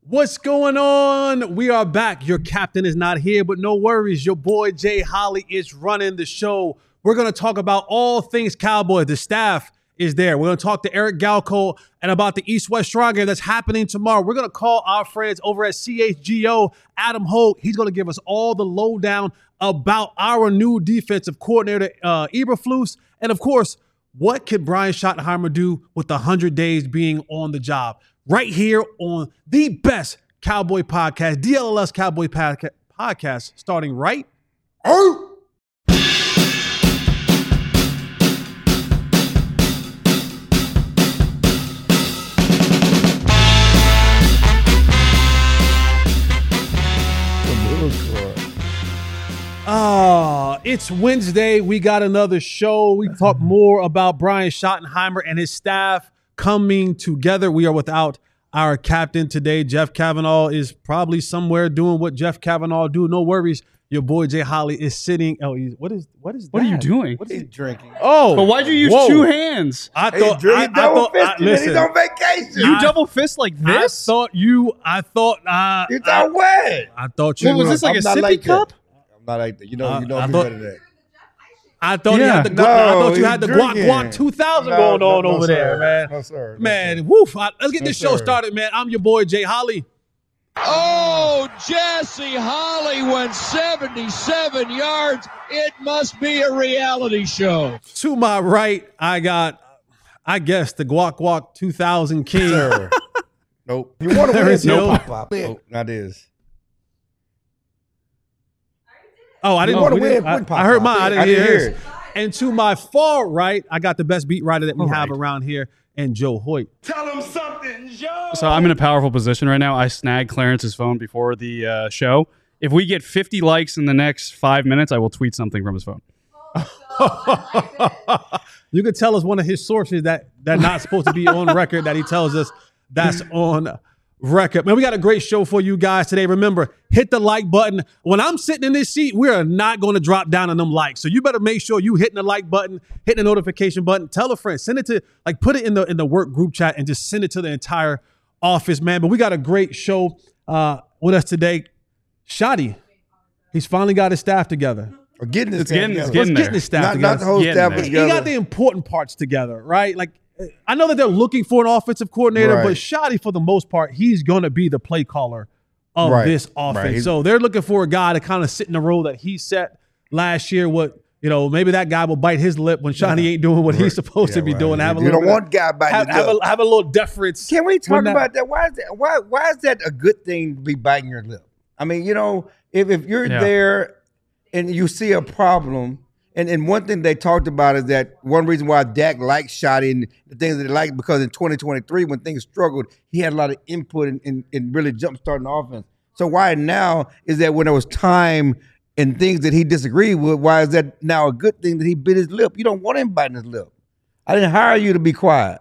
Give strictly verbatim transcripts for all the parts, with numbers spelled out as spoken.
What's going on? We are back. Your captain is not here, but no worries. Your boy Jay Holly is running the show. We're going to talk about all things Cowboys. The staff is there. We're going to talk to Eric Galko and about the East-West Strong game that's happening tomorrow. We're going to call our friends over at C H G O, Adam Holt. He's going to give us all the lowdown about our new defensive coordinator, uh, Eberflus. And, of course, what could Brian Schottenheimer do with one hundred days being on the job? Right here on the best Cowboy podcast, D L L S Cowboy Podca- podcast, starting right. Oh! Oh, it's Wednesday. We got another show. We talk more about Brian Schottenheimer and his staff coming together. We are without our captain today. Jeff Kavanaugh is probably somewhere doing what Jeff Kavanaugh do. No worries. Your boy Jay Holly is sitting. Oh, he's, what is what is that? What are you doing? What is he's he drinking? Oh, but why'd you use whoa. two hands? I He's thought. drinking I, I double thought. I, fisted. listen, He's on vacation. You I- double fist like this? I thought you. I thought. Uh, It's I, our way. I thought you. What was were- this, like I'm a not sippy like that. cup? I'm not like that. You know, Uh, you know I me thought- better than that. I thought you Yeah. had the. No, I thought you he's had the drinking. Guac Guac two thousand No, going no, on no, over sir. there, man. No, sir. No, Man, sir. woof. I, let's get No, this show sir. started, man. I'm your boy Jay Holly. Oh, Jesse Holly went seventy-seven yards. It must be a reality show. To my right, I got, I guess, the Guac Guac two thousand king. Sir. Nope. You want to There win? is no Nope. Pop. Nope. Not this. Oh, I didn't You wanna we win, didn't- I, win, Pop I heard Pop. mine. I didn't, I didn't hear hear his. And to my far right, I got the best beat writer that we All have right. around here, and Joe Hoyt. Tell him something, Joe. So I'm in a powerful position right now. I snagged Clarence's phone before the uh, show. If we get fifty likes in the next five minutes, I will tweet something from his phone. You could tell us one of his sources that that not supposed to be on record that he tells us that's on record. Man, we got a great show for you guys today. Remember, hit the like button. When I'm sitting in this seat, we are not going to drop down on them likes. So you better make sure you hitting the like button, hitting the notification button. Tell a friend, send it to like put it in the in the work group chat and just send it to the entire office, man. But we got a great show uh, with us today. Shotty, he's finally got his staff together. We're getting this It's getting- together. it's getting Let's there. get his staff Not, together. not the whole Getting staff there. is He together. got the important parts together, right? Like, I know that they're looking for an offensive coordinator, Right. but Shotty, for the most part, he's going to be the play caller of Right. this Right. offense. He's- So they're looking for a guy to kind of sit in the role that he set last year. What you know, maybe that guy will bite his lip when Shotty ain't doing what he's supposed to Yeah, be right. doing. Have a You little don't bit want of, guy biting have, his have, lip. a, have a little deference. Can we talk when that- about that? Why is that? Why why is that a good thing to be biting your lip? I mean, you know, if if you're Yeah. there and you see a problem, and, and one thing they talked about is that one reason why Dak liked Shotty and the things that they liked because in twenty twenty-three when things struggled, he had a lot of input in, in, in really jumpstarting the offense. So why now is that when there was time and things that he disagreed with, why is that now a good thing that he bit his lip? You don't want him biting his lip. I didn't hire you to be quiet.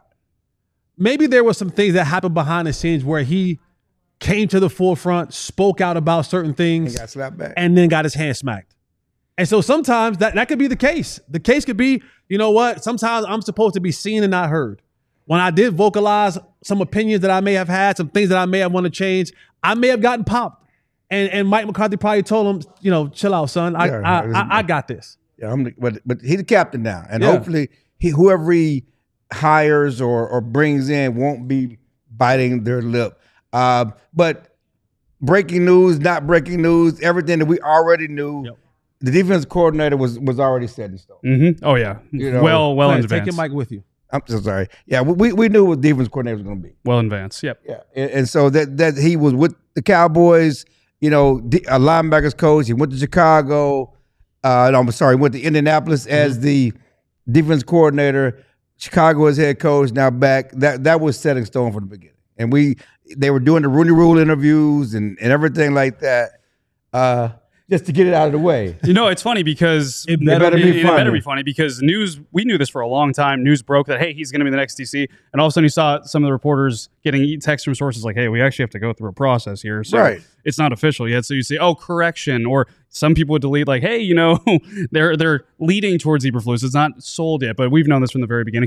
Maybe there were some things that happened behind the scenes where he came to the forefront, spoke out about certain He things, got slapped back. and then got his hand smacked. And so sometimes that, that could be the case. The case could be, you know what? Sometimes I'm supposed to be seen and not heard. When I did vocalize some opinions that I may have had, some things that I may have wanted to change, I may have gotten popped. And and Mike McCarthy probably told him, you know, chill out, son. I Yeah, I, it is- I, I got this. Yeah, I'm the, but but he's the captain now, and Yeah. hopefully he whoever he hires or or brings in won't be biting their lip. Uh, but breaking news, not breaking news, everything that we already knew. Yep. The defense coordinator was was already set in stone. Mm-hmm. Oh, yeah. You know, well, well in Hey, take advance. your mic with you. I'm so sorry. Yeah, we we knew what defense coordinator was going to be. Well in advance. Yep. Yeah, and, and so that that he was with the Cowboys. You know, the, a linebackers coach. He went to Chicago. Uh, no, I'm sorry, he went to Indianapolis as the defense coordinator. Chicago as head coach. Now back. That that was set in stone from the beginning. And we they were doing the Rooney Rule interviews and, and everything like that, uh, just to get it out of the way. You know, it's funny because It better better be it, funny. It better be funny because news. We knew this for a long time. News broke that hey, he's going to be the next D C, and all of a sudden you saw some of the reporters getting texts from sources like, "Hey, we actually have to go through a process here, so Right. it's not official yet." So you say, "Oh, correction," or some people would delete like, "Hey, you know, they're they're leading towards Eberflus. It's not sold yet, but we've known this from the very beginning."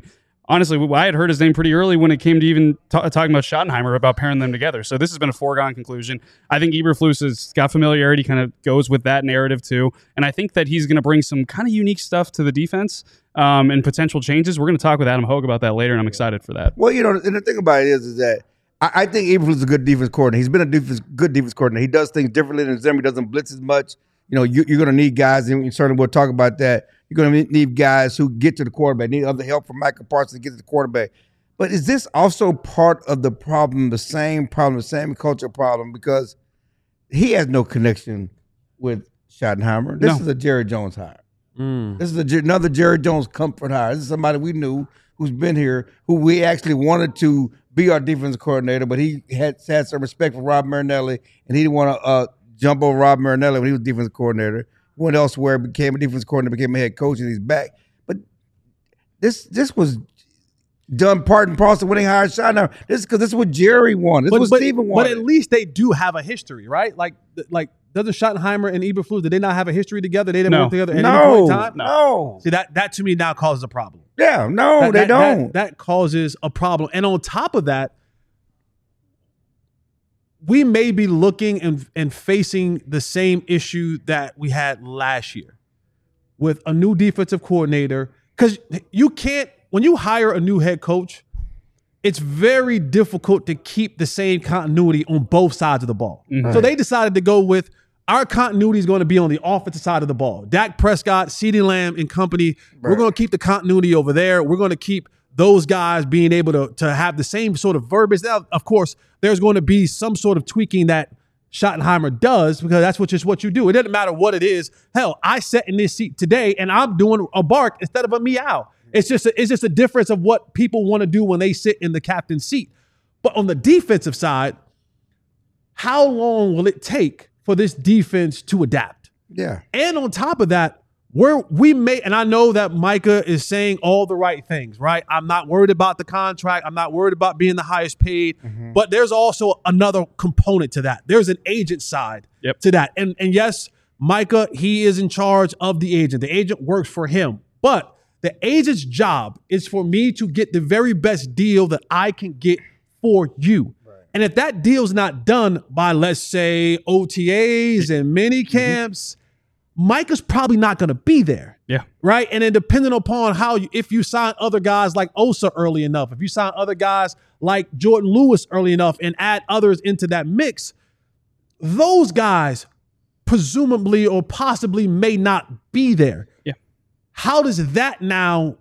honestly, I had heard his name pretty early when it came to even t- talking about Schottenheimer, about pairing them together. So this has been a foregone conclusion. I think Eberflus has got familiarity, kind of goes with that narrative too. And I think that he's going to bring some kind of unique stuff to the defense um, and potential changes. We're going to talk with Adam Hogue about that later, and I'm excited for that. Well, you know, and the thing about it is, is that I, I think Eberflus is a good defense coordinator. He's been a defense, good defense coordinator. He does things differently than Zimmer. He doesn't blitz as much. You know, you, you're going to need guys, and certainly we'll talk about that. You're going to need guys who get to the quarterback, need other help from Micah Parsons to get to the quarterback. But is this also part of the problem, the same problem, the same culture problem? Because he has no connection with Schottenheimer. This No. is a Jerry Jones hire. Mm. This is a, another Jerry Jones comfort hire. This is somebody we knew who's been here, who we actually wanted to be our defense coordinator, but he had, had some respect for Rob Marinelli, and he didn't want to uh, jump over Rob Marinelli when he was defense coordinator. Went elsewhere, became a defense coordinator, became a head coach, and he's back. But this this was done part and parcel when they hired Schottenheimer. This is because this is what Jerry wanted. This But, is what but, Steven but wanted. at least they do have a history, right? Like, like doesn't Schottenheimer and Eberflus, did they not have a history together? They didn't No. work together at any no, point in time? no. See, that, that to me now causes a problem. Yeah, no, That- they that- don't. That, that causes a problem. And on top of that, we may be looking and, and facing the same issue that we had last year with a new defensive coordinator. Because you can't, when you hire a new head coach, it's very difficult to keep the same continuity on both sides of the ball. Mhm. So they decided to go with our continuity is going to be on the offensive side of the ball. Dak Prescott, CeeDee Lamb and company, we're Right. going to keep the continuity over there. We're going to keep those guys being able to, to have the same sort of verbiage. Now, of course, there's going to be some sort of tweaking that Schottenheimer does because that's what just what you do. It doesn't matter what it is. Hell, I sat in this seat today and I'm doing a bark instead of a meow. It's just a, it's just a difference of what people want to do when they sit in the captain's seat. But on the defensive side, how long will it take for this defense to adapt? Yeah. And on top of that, we're we may, and I know that Micah is saying all the right things, right? I'm not worried about the contract. I'm not worried about being the highest paid. Mm-hmm. But there's also another component to that. There's an agent side Yep. to that. And and yes, Micah, he is in charge of the agent. The agent works for him. But the agent's job is for me to get the very best deal that I can get for you. And if that deal's not done by, let's say, O T As and mini camps, Micah's probably not going to be there. Yeah. Right. And then depending upon how you, if you sign other guys like Osa early enough, if you sign other guys like Jordan Lewis early enough and add others into that mix, those guys presumably or possibly may not be there. Yeah. How does that now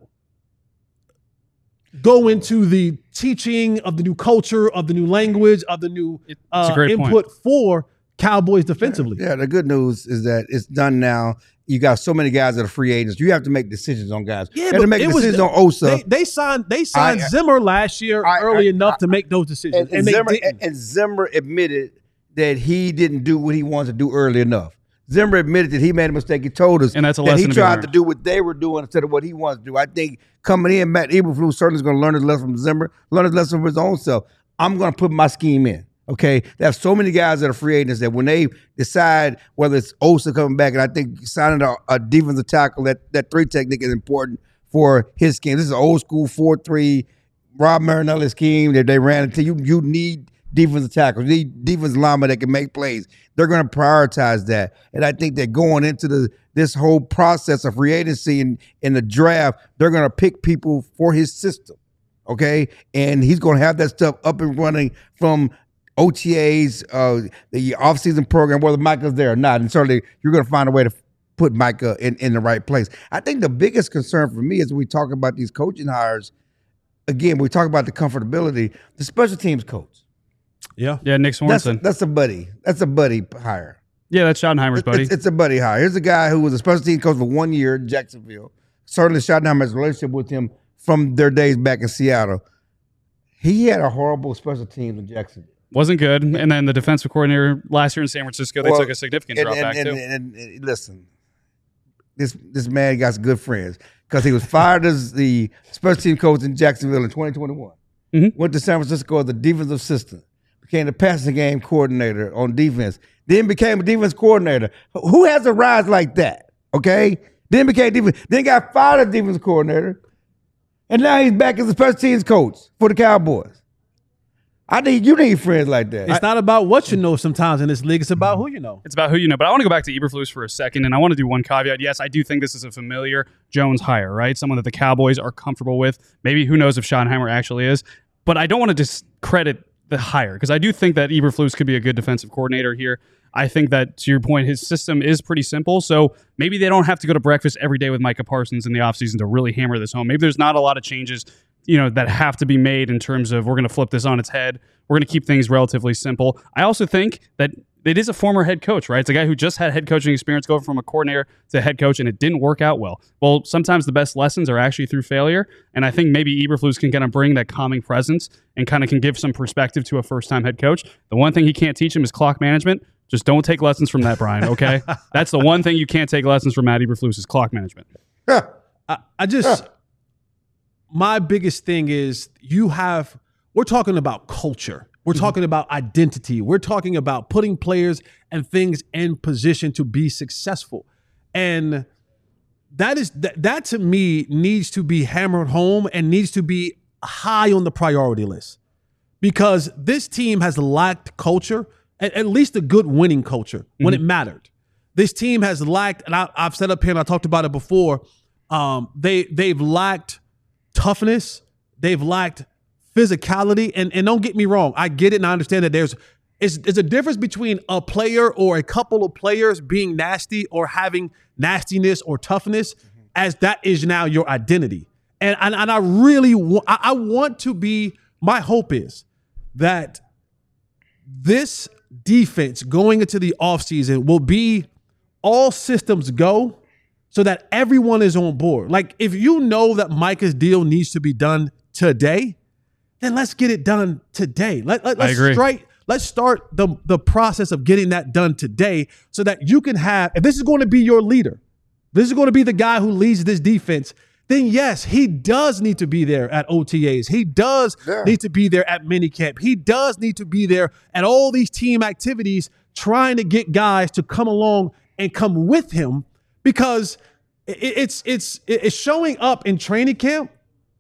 go into the teaching of the new culture, of the new language, of the new It's uh, a great point. input for Cowboys defensively? Yeah, the good news is that it's done now. You got so many guys that are free agents. You have to make decisions on guys. Yeah, you have to but make it was- decisions on Osa. They, they signed they signed I- Zimmer last year I- early I- enough I- to make those decisions, and, and, and they Zimmer, didn't. and, and Zimmer admitted that he didn't do what he wanted to do early enough. Zimmer admitted that he made a mistake. He told us And that's a that he lesson to be tried learned. to do what they were doing instead of what he wants to do. I think coming in, Matt Eberflus certainly is going to learn his lesson from Zimmer, learn his lesson from his own self. I'm going to put my scheme in. Okay, there's so many guys that are free agents that when they decide whether it's Osa coming back, and I think signing a, a defensive tackle, that that three technique is important for his scheme. This is an old school four three Rob Marinelli scheme that they ran into. You you need defensive tackles, you need defensive linemen that can make plays. They're going to prioritize that, and I think that going into the this whole process of free agency and in the draft, they're going to pick people for his system. Okay, and he's going to have that stuff up and running from O T As, uh, the offseason program, whether Micah's there or not. And certainly you're going to find a way to put Micah in, in the right place. I think the biggest concern for me as we talk about these coaching hires, again, we talk about the comfortability, the special teams coach. Yeah. Yeah, Nick That's, Swanson. that's a buddy. That's a buddy hire. yeah, that's Schottenheimer's buddy. It's, it's a buddy hire. Here's a guy who was a special teams coach for one year in Jacksonville. Certainly Schottenheimer has a relationship with him from their days back in Seattle. He had a horrible special teams in Jacksonville. Wasn't good. And then the defensive coordinator last year in San Francisco, they Well, took a significant and, drop and, back and, too. and, and, and listen, this this man got some good friends because he was fired as the special team coach in Jacksonville in twenty twenty-one. Mhm. Went to San Francisco as the defensive assistant. Became the passing game coordinator on defense. Then became a defense coordinator. Who has a rise like that? Okay. Then became defense. Then got fired as defense coordinator. And now he's back as a special teams coach for the Cowboys. I need you need friends like that. It's I, not about what you know sometimes in this league. It's about who you know. It's about who you know. But I want to go back to Eberflus for a second, and I want to do one caveat. Yes, I do think this is a familiar Jones hire, right? Someone that the Cowboys are comfortable with. Maybe who knows if Schottenheimer actually is. But I don't want to discredit the hire because I do think that Eberflus could be a good defensive coordinator here. I think that, to your point, his system is pretty simple. So maybe they don't have to go to breakfast every day with Micah Parsons in the offseason to really hammer this home. Maybe there's not a lot of changes, you know, that have to be made in terms of we're going to flip this on its head. We're going to keep things relatively simple. I also think that it is a former head coach, right? It's a guy who just had head coaching experience going from a coordinator to head coach, and it didn't work out well. Well, sometimes the best lessons are actually through failure, and I think maybe Eberflus can kind of bring that calming presence and kind of can give some perspective to a first-time head coach. The one thing he can't teach him is clock management. Just don't take lessons from that, Brian, okay? That's the one thing you can't take lessons from Matt Eberflus is clock management. I, I just, my biggest thing is you have, we're talking about culture. We're mm-hmm. talking about identity. We're talking about putting players and things in position to be successful. And that is, that, that to me needs to be hammered home and needs to be high on the priority list because this team has lacked culture, at, at least a good winning culture when mm-hmm. it mattered. This team has lacked, and I, I've said up here and I talked about it before, um, they, they've lacked toughness. They've lacked physicality. And, and don't get me wrong. I get it and I understand that there's, it's, it's a difference between a player or a couple of players being nasty or having nastiness or toughness mm-hmm. as that is now your identity. And, and, and I really want, I, I want to be, my hope is that this defense going into the offseason will be all systems go so that everyone is on board. Like if you know that Micah's deal needs to be done today, then let's get it done today. Let, let, let's straight, let's start the, the process of getting that done today so that you can have, if this is going to be your leader, this is going to be the guy who leads this defense, then yes, he does need to be there at O T As. He does yeah. need to be there at minicamp. He does need to be there at all these team activities trying to get guys to come along and come with him because it's it's it's showing up in training camp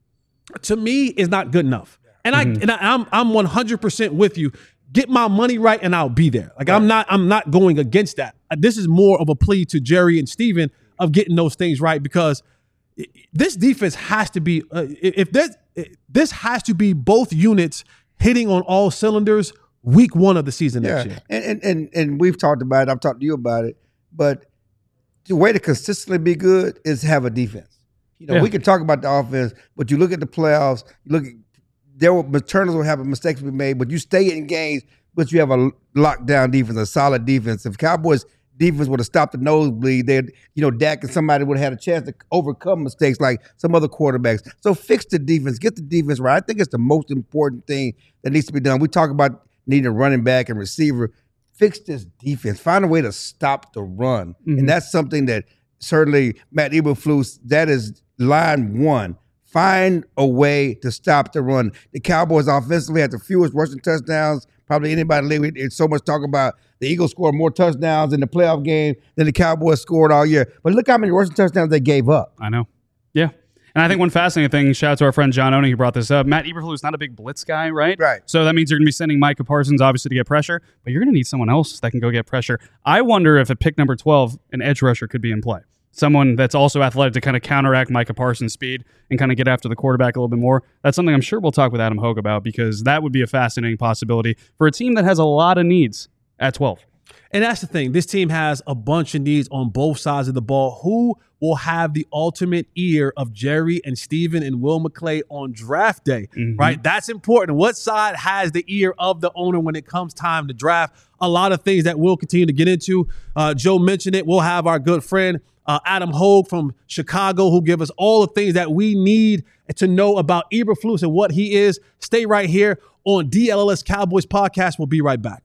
to me is not good enough. And mm-hmm. I and I, I'm I'm one hundred percent with you. Get my money right and I'll be there. Like right. I'm not I'm not going against that. This is more of a plea to Jerry and Steven of getting those things right because this defense has to be uh, if this this has to be both units hitting on all cylinders week one of the season yeah. next year. And, and and and we've talked about it. I've talked to you about it. But the way to consistently be good is have a defense. You know, yeah. we can talk about the offense, but you look at the playoffs. You look at there will turnovers will have mistakes be made, but you stay in games. But you have a lockdown defense, a solid defense. If Cowboys defense would have stopped the nosebleed, they, you know, Dak and somebody would have had a chance to overcome mistakes like some other quarterbacks. So fix the defense, get the defense right. I think it's the most important thing that needs to be done. We talk about needing a running back and receiver. Fix this defense. Find a way to stop the run, mm-hmm. and that's something that certainly Matt Eberflus. That is line one. Find a way to stop the run. The Cowboys offensively had the fewest rushing touchdowns probably anybody in the league. It's so much talk about the Eagles scored more touchdowns in the playoff game than the Cowboys scored all year. But look how many rushing touchdowns they gave up. I know. Yeah. And I think one fascinating thing, shout out to our friend John Oning who brought this up. Matt Eberflus is not a big blitz guy, right? Right. So that means you're going to be sending Micah Parsons, obviously, to get pressure, but you're going to need someone else that can go get pressure. I wonder if at pick number twelve, an edge rusher could be in play. Someone that's also athletic to kind of counteract Micah Parsons' speed and kind of get after the quarterback a little bit more. That's something I'm sure we'll talk with Adam Hogue about because that would be a fascinating possibility for a team that has a lot of needs at twelve. And that's the thing. This team has a bunch of needs on both sides of the ball. Who will have the ultimate ear of Jerry and Steven and Will McClay on draft day, mm-hmm. right? That's important. What side has the ear of the owner when it comes time to draft? A lot of things that we'll continue to get into. Uh, Joe mentioned it. We'll have our good friend uh, Adam Hogue from Chicago who give us all the things that we need to know about Eberflus and what he is. Stay right here on D L L S Cowboys Podcast. We'll be right back.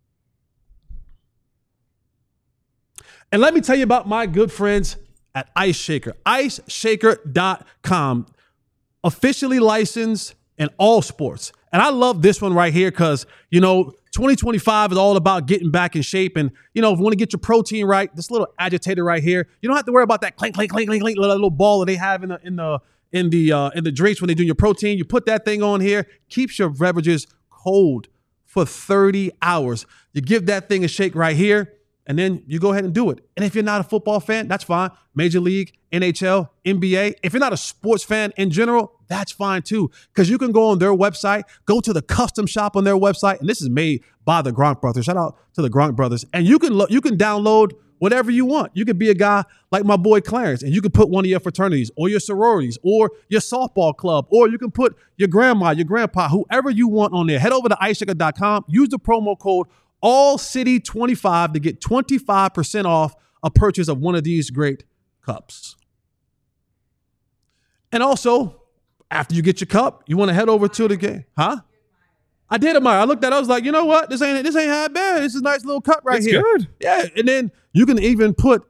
And let me tell you about my good friends at Ice Shaker. ice shaker dot com, officially licensed in all sports. And I love this one right here because, you know, twenty twenty-five is all about getting back in shape. And, you know, if you want to get your protein right, this little agitator right here, you don't have to worry about that clink, clink, clink, clink, clink, little ball that they have in the in the in the uh, in the drinks when they do your protein. You put that thing on here, keeps your beverages cold for thirty hours. You give that thing a shake right here, and then you go ahead and do it. And if you're not a football fan, that's fine. Major League, N H L, N B A. If you're not a sports fan in general, that's fine too. Because you can go on their website, go to the custom shop on their website, and this is made by the Gronk brothers. Shout out to the Gronk brothers. And you can lo- you can download whatever you want. You could be a guy like my boy Clarence, and you can put one of your fraternities or your sororities or your softball club, or you can put your grandma, your grandpa, whoever you want on there. Head over to ice shaker dot com. Use the promo code all city twenty-five to get twenty-five percent off a purchase of one of these great cups. And also, after you get your cup, you want to head over to the game. Huh? I did, Amari. I looked at it. I was like, you know what? This ain't this ain't half bad. This is a nice little cup right It's here. good. Yeah. And then you can even put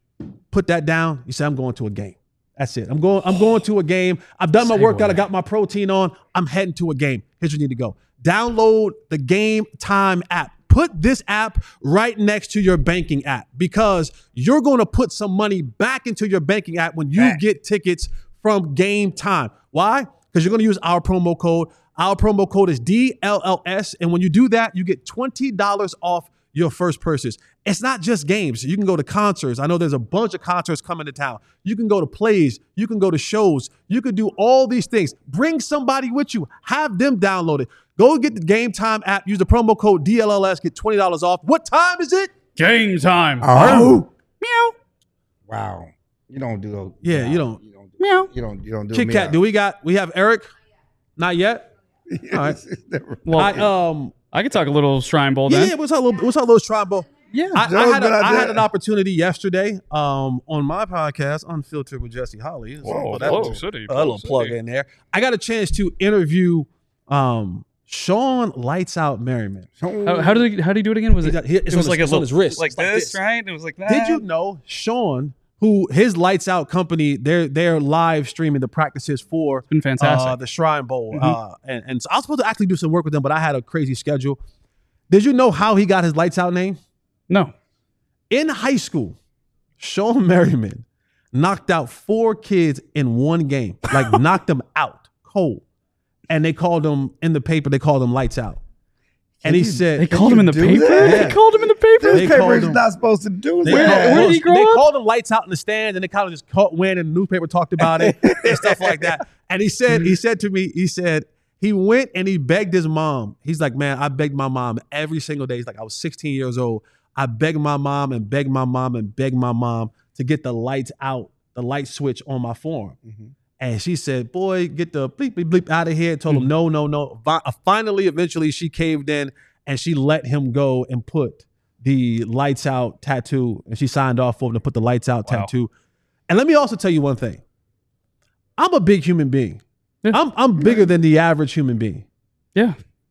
put that down. You say, I'm going to a game. That's it. I'm going, I'm going to a game. I've done my workout. I got my protein on. I'm heading to a game. Here's where you need to go. Download the Game Time app. Put this app right next to your banking app, because you're going to put some money back into your banking app when you Back. get tickets from Game Time. Why? Because you're going to use our promo code. Our promo code is D L L S. And when you do that, you get twenty dollars off your first purchase. It's not just games. You can go to concerts. I know there's a bunch of concerts coming to town. You can go to plays. You can go to shows. You can do all these things. Bring somebody with you. Have them download it. Go get the Game Time app. Use the promo code D L L S. Get twenty dollars off. What time is it? Game time. Oh. Meow. Wow. You don't do those. Yeah, wow. you don't. You don't do, Meow. you don't, you don't do Kit Kat, do we got, we have Eric? Not yet? All right. Well, I, um, I could talk a little Shrine Bowl yeah, then. yeah, what's our little, what's our little Shrine Bowl? Yeah. I, I, Joe's had a, good I idea. had an opportunity yesterday um, on my podcast, Unfiltered with Jesse Holly. So Whoa, put that whoa, little, city, a little city. plug in there. I got a chance to interview um, Sean Lights Out Merriman. How, how did he, how did he do it again? Was He it? got- he- it's it was on like his- a it's on his wrist. like It's like this, this. right? It was like that. Did you know Sean, who his Lights Out company, they're they're live streaming the practices for It's been fantastic. uh, the Shrine Bowl. Mhm. Uh, and, and so I was supposed to actually do some work with them, but I had a crazy schedule. Did you know how he got his Lights Out name? No. In high school, Sean Merriman knocked out four kids in one game, like knocked them out cold. And they called him in the paper, they called him Lights Out. And he you- said, They called him in the do paper? that? Yeah. They called him in the paper? They Newspaper called is him- not supposed to do They, Where- that. called, where did he grow they up? called him Lights Out in the stands, and they kind of just caught wind, and the newspaper talked about it and stuff like that. And he said, he said to me, he said, he went and he begged his mom. He's like, man, I begged my mom every single day. He's like, I was sixteen years old. I begged my mom and begged my mom and begged my mom to get the lights out, the light switch on my phone. Mhm. And she said, boy, get the bleep, bleep, bleep out of here. Told him, no, no, no. Vi- Finally, eventually, she caved in and she let him go and put the Lights Out tattoo. And she signed off for him to put the Lights Out Wow. tattoo. And let me also tell you one thing. I'm a big human being. Yeah. I'm, I'm bigger than the average human being. Yeah.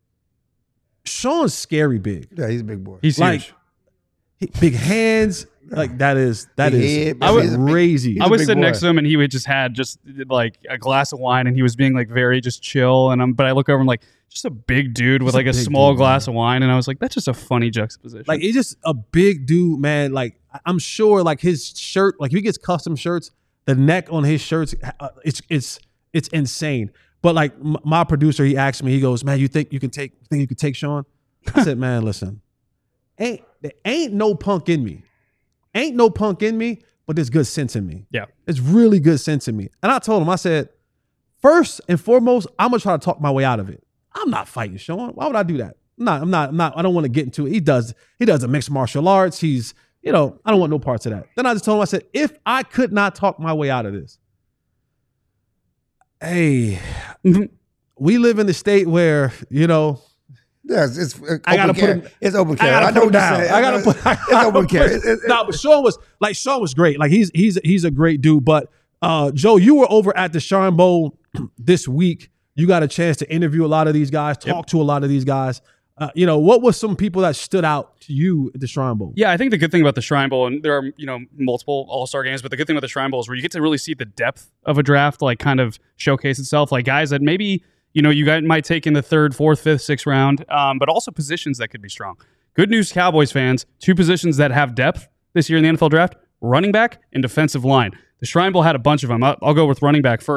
Sean's scary big. Yeah, he's a big boy. He's Like, huge. He- big hands. Like that is, that Big is head, I would- he's a big- crazy. he's I a was big sitting boy. next to him and he would just had just like a glass of wine and he was being like very just chill. And I'm, but I look over and like, just a big dude with Just a like a, big small dude, glass man. of wine. And I was like, that's just a funny juxtaposition. Like he's just a big dude, man. Like I- I'm sure, like his shirt, like if he gets custom shirts, the neck on his shirts, uh, it's it's it's insane. But like m- my producer, he asked me, he goes, "Man, you think you can take? You think you can take Sean?" I said, "Man, listen, ain't there ain't no punk in me, ain't no punk in me, but there's good sense in me. Yeah. It's really good sense in me." And I told him, I said, first and foremost, I'm gonna try to talk my way out of it. I'm not fighting Sean. Why would I do that? I'm not. I'm not. I'm not. I don't want to get into it. He does. He does a mixed martial arts. He's. You know. I don't want no parts of that. Then I just told him. I said, if I could not talk my way out of this, hey, we live in a state where you know. Yes, it's, it's I gotta open put carry. him- It's open I carry. gotta I, put know him what you're down. saying. I gotta know put. I It's gotta open put- carry. It- it- No, but Sean was like Sean was great. Like he's he's he's a great dude. But uh, Joe, you were over at the Shrine Bowl this week. You got a chance to interview a lot of these guys, talk to a lot of these guys. Uh, you know, what was some people that stood out to you at the Shrine Bowl? Yeah, I think the good thing about the Shrine Bowl, and there are, you know, multiple All-Star games, but the good thing about the Shrine Bowl is where you get to really see the depth of a draft, like kind of showcase itself, like guys that maybe, you know, you guys might take in the third, fourth, fifth, sixth round, um, but also positions that could be strong. Good news, Cowboys fans, two positions that have depth this year in the N F L draft, running back and defensive line. The Shrine Bowl had a bunch of them. I'll, I'll go with running back first.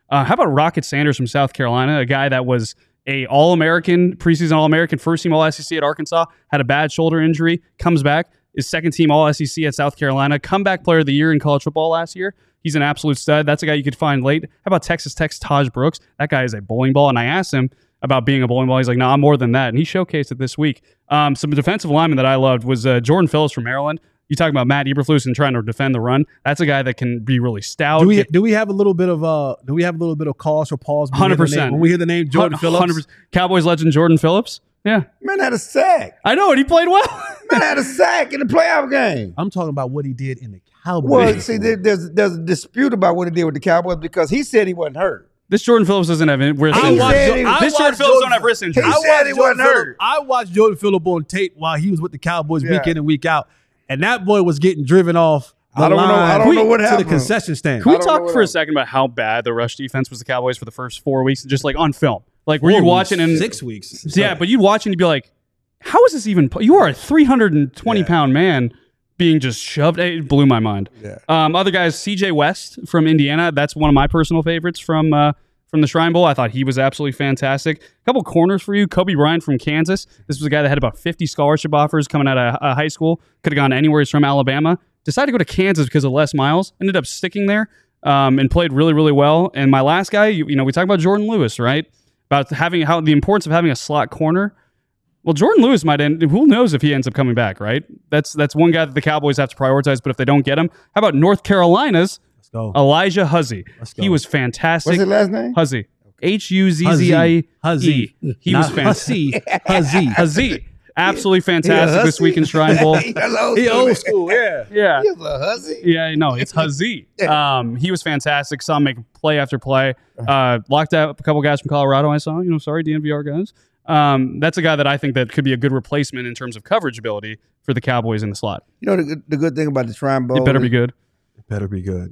Uh, how about Rocket Sanders from South Carolina, a guy that was a All-American, preseason All-American, first-team All-S E C at Arkansas, had a bad shoulder injury, comes back, is second-team All-S E C at South Carolina, comeback player of the year in college football last year. He's an absolute stud. That's a guy you could find late. How about Texas Tech's Taj Brooks? That guy is a bowling ball, and I asked him about being a bowling ball. He's like, no, nah, I'm more than that, and he showcased it this week. Um, some defensive linemen that I loved was uh, Jordan Phillips from Maryland. You talk about Matt Eberflus and trying to defend the run. That's a guy that can be really stout. Do we do we have a little bit of uh do we have a little bit of cause for pause? Hundred percent when we hear the name Jordan Phillips, Cowboys legend Jordan Phillips. Yeah, man had a sack. I know, and he played well. Man had a sack in the playoff game. I'm talking about what he did in the Cowboys. Well, see, there, there's there's a dispute about what he did with the Cowboys because he said he wasn't hurt. This Jordan Phillips doesn't have wrist I injury. watched, said he- I This Jordan watched Phillips don't have wrist injury. He I said watched he Jordan wasn't Phillips- hurt. I watched Jordan Phillips on tape while he was with the Cowboys Yeah. week in and week out, and that boy was getting driven off the I don't know- line I don't know what to the happened. concession stand. Can we I don't know talk what for a else. second about how bad the rush defense was the Cowboys for the first four weeks, just like on film? Like, were Four you weeks, watching and six weeks? Yeah, but you'd watch and you'd be like, how is this even? po- You are a three hundred twenty Yeah. pound man being just shoved. It blew my mind. Yeah. Um, other guys, C J West from Indiana. That's one of my personal favorites from uh, from the Shrine Bowl. I thought he was absolutely fantastic. A couple corners for you. Kobe Bryant from Kansas. This was a guy that had about fifty scholarship offers coming out of uh, high school. Could have gone anywhere. He's from Alabama. Decided to go to Kansas because of Les Miles. Ended up sticking there um, and played really, really well. And my last guy, you, you know, we talk about Jordan Lewis, right? About having how the importance of having a slot corner. Well, Jordan Lewis might end. Who knows if he ends up coming back, right? That's that's one guy that the Cowboys have to prioritize. But if they don't get him, how about North Carolina's Let's go. Elijah Huzzie? Let's go. He was fantastic. What's his last name? Huzzie. H U Z Z I E. Huzzie. He Not was fantastic. Huzzie. Huzzie. Huzzie. Absolutely fantastic Yeah, this Huzzie. week in Shrine Bowl. He was old He school, old man. school, yeah. Yeah. He was a hussy. Yeah, no, it's Huzzie. Um, he was fantastic. Saw him make play after play. Uh, locked out a couple guys from Colorado. I saw. You know, sorry, D N V R guys. Um, that's a guy that I think that could be a good replacement in terms of coverage ability for the Cowboys in the slot. You know the, good- the good thing about the Shrine Bowl. It better be is- good. It better be good.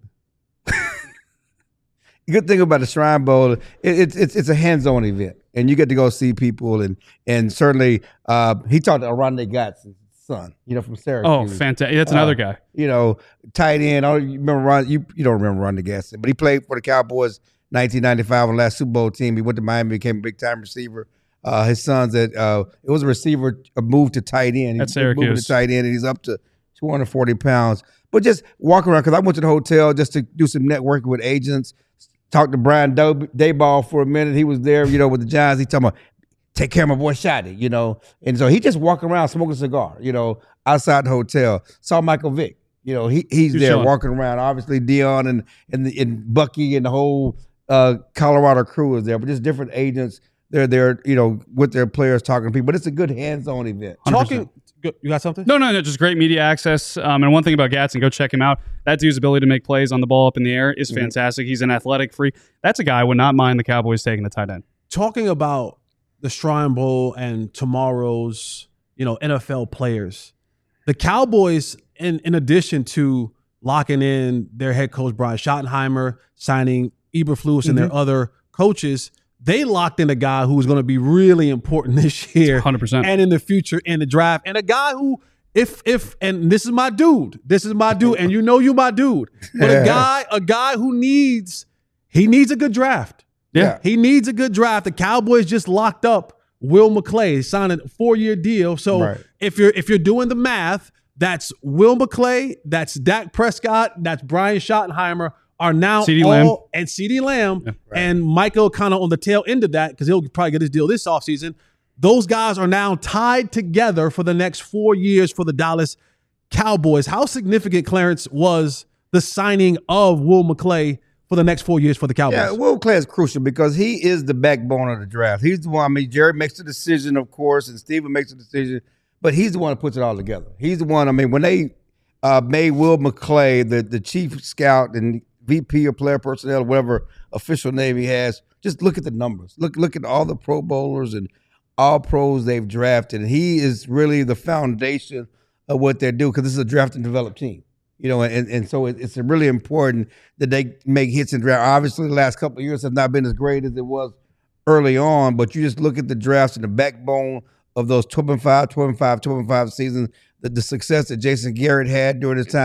The good thing about the Shrine Bowl, it, it's it's it's a hands-on event, and you get to go see people, and and certainly uh, he talked to Aronde Gadsden's son, you know, from Syracuse. Oh, fantastic! That's another Uh, guy. You know, tight end. I don't you remember Ron. You you don't remember Aronde Gadsden, but he played for the Cowboys nineteen ninety-five on the last Super Bowl team. He went to Miami, became a big time receiver. Uh, his son's at uh, it was a receiver, a move to tight end. At He's moving Syracuse. to tight end, and he's up to two hundred forty pounds. But just walk around because I went to the hotel just to do some networking with agents. Talked to Brian Daboll for a minute. He was there, you know, with the Giants. He talking about take care of my boy Shotty, you know. And so he just walking around smoking a cigar, you know, outside the hotel. Saw Michael Vick, you know, he he's He's there chilling. walking around. Obviously Dion and and, the, and Bucky and the whole uh, Colorado crew is there, but just different agents. They're there, you know, with their players talking to people. But it's a good hands-on event. Talking, you got something? No, no, no, just great media access. Um, and one thing about Gadsden, go check him out. That dude's ability to make plays on the ball up in the air is Mm-hmm. fantastic. He's an athletic freak. That's a guy I would not mind the Cowboys taking the tight end. Talking about the Shrine Bowl and tomorrow's, you know, N F L players, the Cowboys, in, in addition to locking in their head coach, Brian Schottenheimer, signing Eberflus and their other coaches, they locked in a guy who was going to be really important this year one hundred percent. and in the future in the draft, and a guy who, if if and this is my dude, this is my dude, and you know you my dude, but a guy, a guy who needs, he needs a good draft. Yeah. He needs a good draft. The Cowboys just locked up Will McClay, signed a four-year deal. So Right. if you're if you're doing the math, that's Will McClay, that's Dak Prescott, that's Brian Schottenheimer are now CeeDee all Lamb. and CeeDee Lamb and Michael kind of on the tail end of that because he'll probably get his deal this offseason. Those guys are now tied together for the next four years for the Dallas Cowboys. How significant, Clarence, was the signing of Will McClay for the next four years for the Cowboys? Yeah, Will Clay is crucial because he is the backbone of the draft. He's the one, I mean, Jerry makes the decision, of course, and Steven makes the decision, but he's the one that puts it all together. He's the one, I mean, when they uh, made Will McClay the, the chief scout and V P of player personnel, whatever official name he has, just look at the numbers. Look, look at all the Pro Bowlers and all pros they've drafted. And he is really the foundation of what they're doing because this is a draft and develop team. You know, and, and so it, it's really important that they make hits in draft. Obviously, the last couple of years have not been as great as it was early on, but you just look at the drafts and the backbone of those twelve and five, twelve and five, twelve and five seasons, the, the success that Jason Garrett had during his time.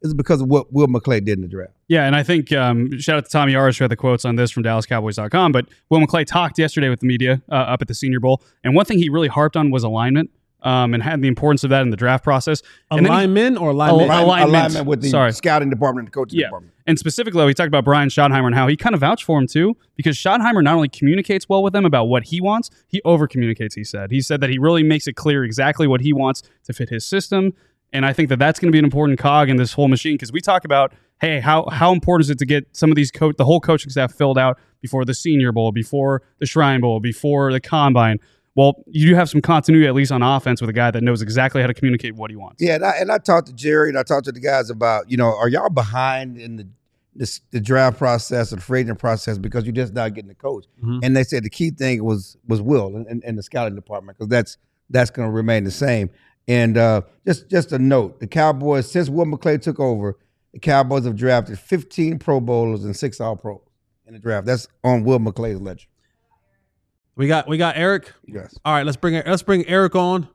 This is because of what Will McClay did in the draft. Yeah, and I think um, shout out to Tommy Arish who had the quotes on this from Dallas Cowboys dot com. But Will McClay talked yesterday with the media uh, up at the Senior Bowl, and one thing he really harped on was alignment. Um, and had the importance of that in the draft process. And alignment he, or alignment? Al- alignment. Alignment with the Sorry. scouting department and the coaching yeah. department. And specifically, though, he talked about Brian Schottenheimer and how he kind of vouched for him, too, because Schottenheimer not only communicates well with them about what he wants, he over-communicates, he said. He said that he really makes it clear exactly what he wants to fit his system. And I think that that's going to be an important cog in this whole machine, because we talk about, hey, how how important is it to get some of these coach, the whole coaching staff filled out before the Senior Bowl, before the Shrine Bowl, before the Combine. Well, you do have some continuity, at least on offense, with a guy that knows exactly how to communicate what he wants. Yeah, and I, and I talked to Jerry and I talked to the guys about, you know, are y'all behind in the this, the draft process or the free agent process because you're just not getting the coach? Mm-hmm. And they said the key thing was was Will and, and, and the scouting department, because that's that's going to remain the same. And uh, just just a note, the Cowboys, since Will McClay took over, the Cowboys have drafted fifteen Pro Bowlers and six All-Pros in the draft. That's on Will McClay's ledger. We got we got Eric. Yes. All right, let's bring let's bring Eric on.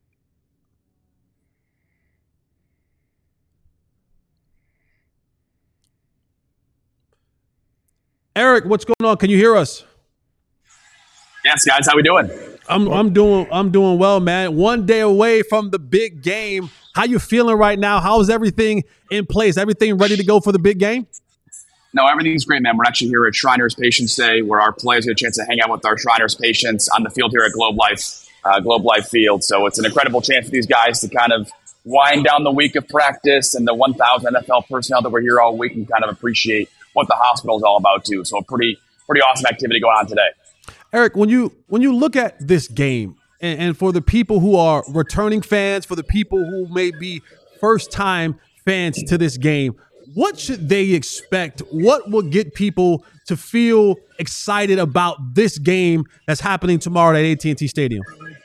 Eric, what's going on? Can you hear us? Yes, guys, how we doing? I'm I'm doing I'm doing well, man. One day away from the big game. How you feeling right now? How's everything in place? Everything ready to go for the big game? No, everything's great, man. We're actually here at Shriners Patients Day, where our players get a chance to hang out with our Shriners patients on the field here at Globe Life, uh, Globe Life Field. So it's an incredible chance for these guys to kind of wind down the week of practice and the one thousand N F L personnel that were here all week and kind of appreciate what the hospital is all about too. So a pretty, pretty awesome activity going on today. Eric, when you when you look at this game, and, and for the people who are returning fans, for the people who may be first-time fans to this game, what should they expect? What will get people to feel excited about this game that's happening tomorrow at A T and T Stadium?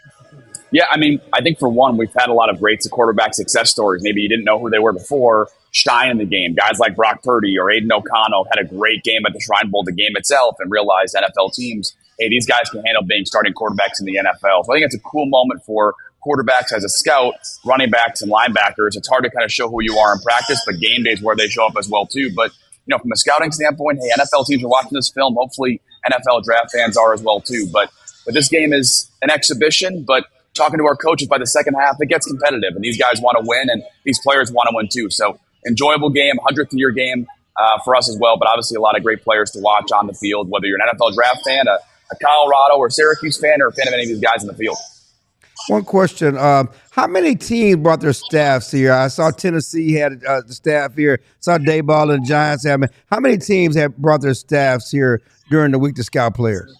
Yeah, I mean, I think for one, we've had a lot of great quarterback success stories. Maybe you didn't know who they were before, shine in the game. Guys like Brock Purdy or Aiden O'Connell had a great game at the Shrine Bowl, the game itself, and realized N F L teams, hey, these guys can handle being starting quarterbacks in the N F L. So I think it's a cool moment for quarterbacks as a scout, running backs, and linebackers. It's hard to kind of show who you are in practice, but game days where they show up as well too. But you know, from a scouting standpoint, hey, N F L teams are watching this film. Hopefully, N F L draft fans are as well too. But but this game is an exhibition. But talking to our coaches, by the second half, it gets competitive, and these guys want to win, and these players want to win too. So enjoyable game, hundredth year game uh, for us as well. But obviously, a lot of great players to watch on the field. Whether you're an N F L draft fan, a, a Colorado or Syracuse fan, or a fan of any of these guys in the field. One question. Um, how many teams brought their staffs here? I saw Tennessee had uh, the staff here. Saw Dayball and the Giants have. How many teams have brought their staffs here during the week to scout players?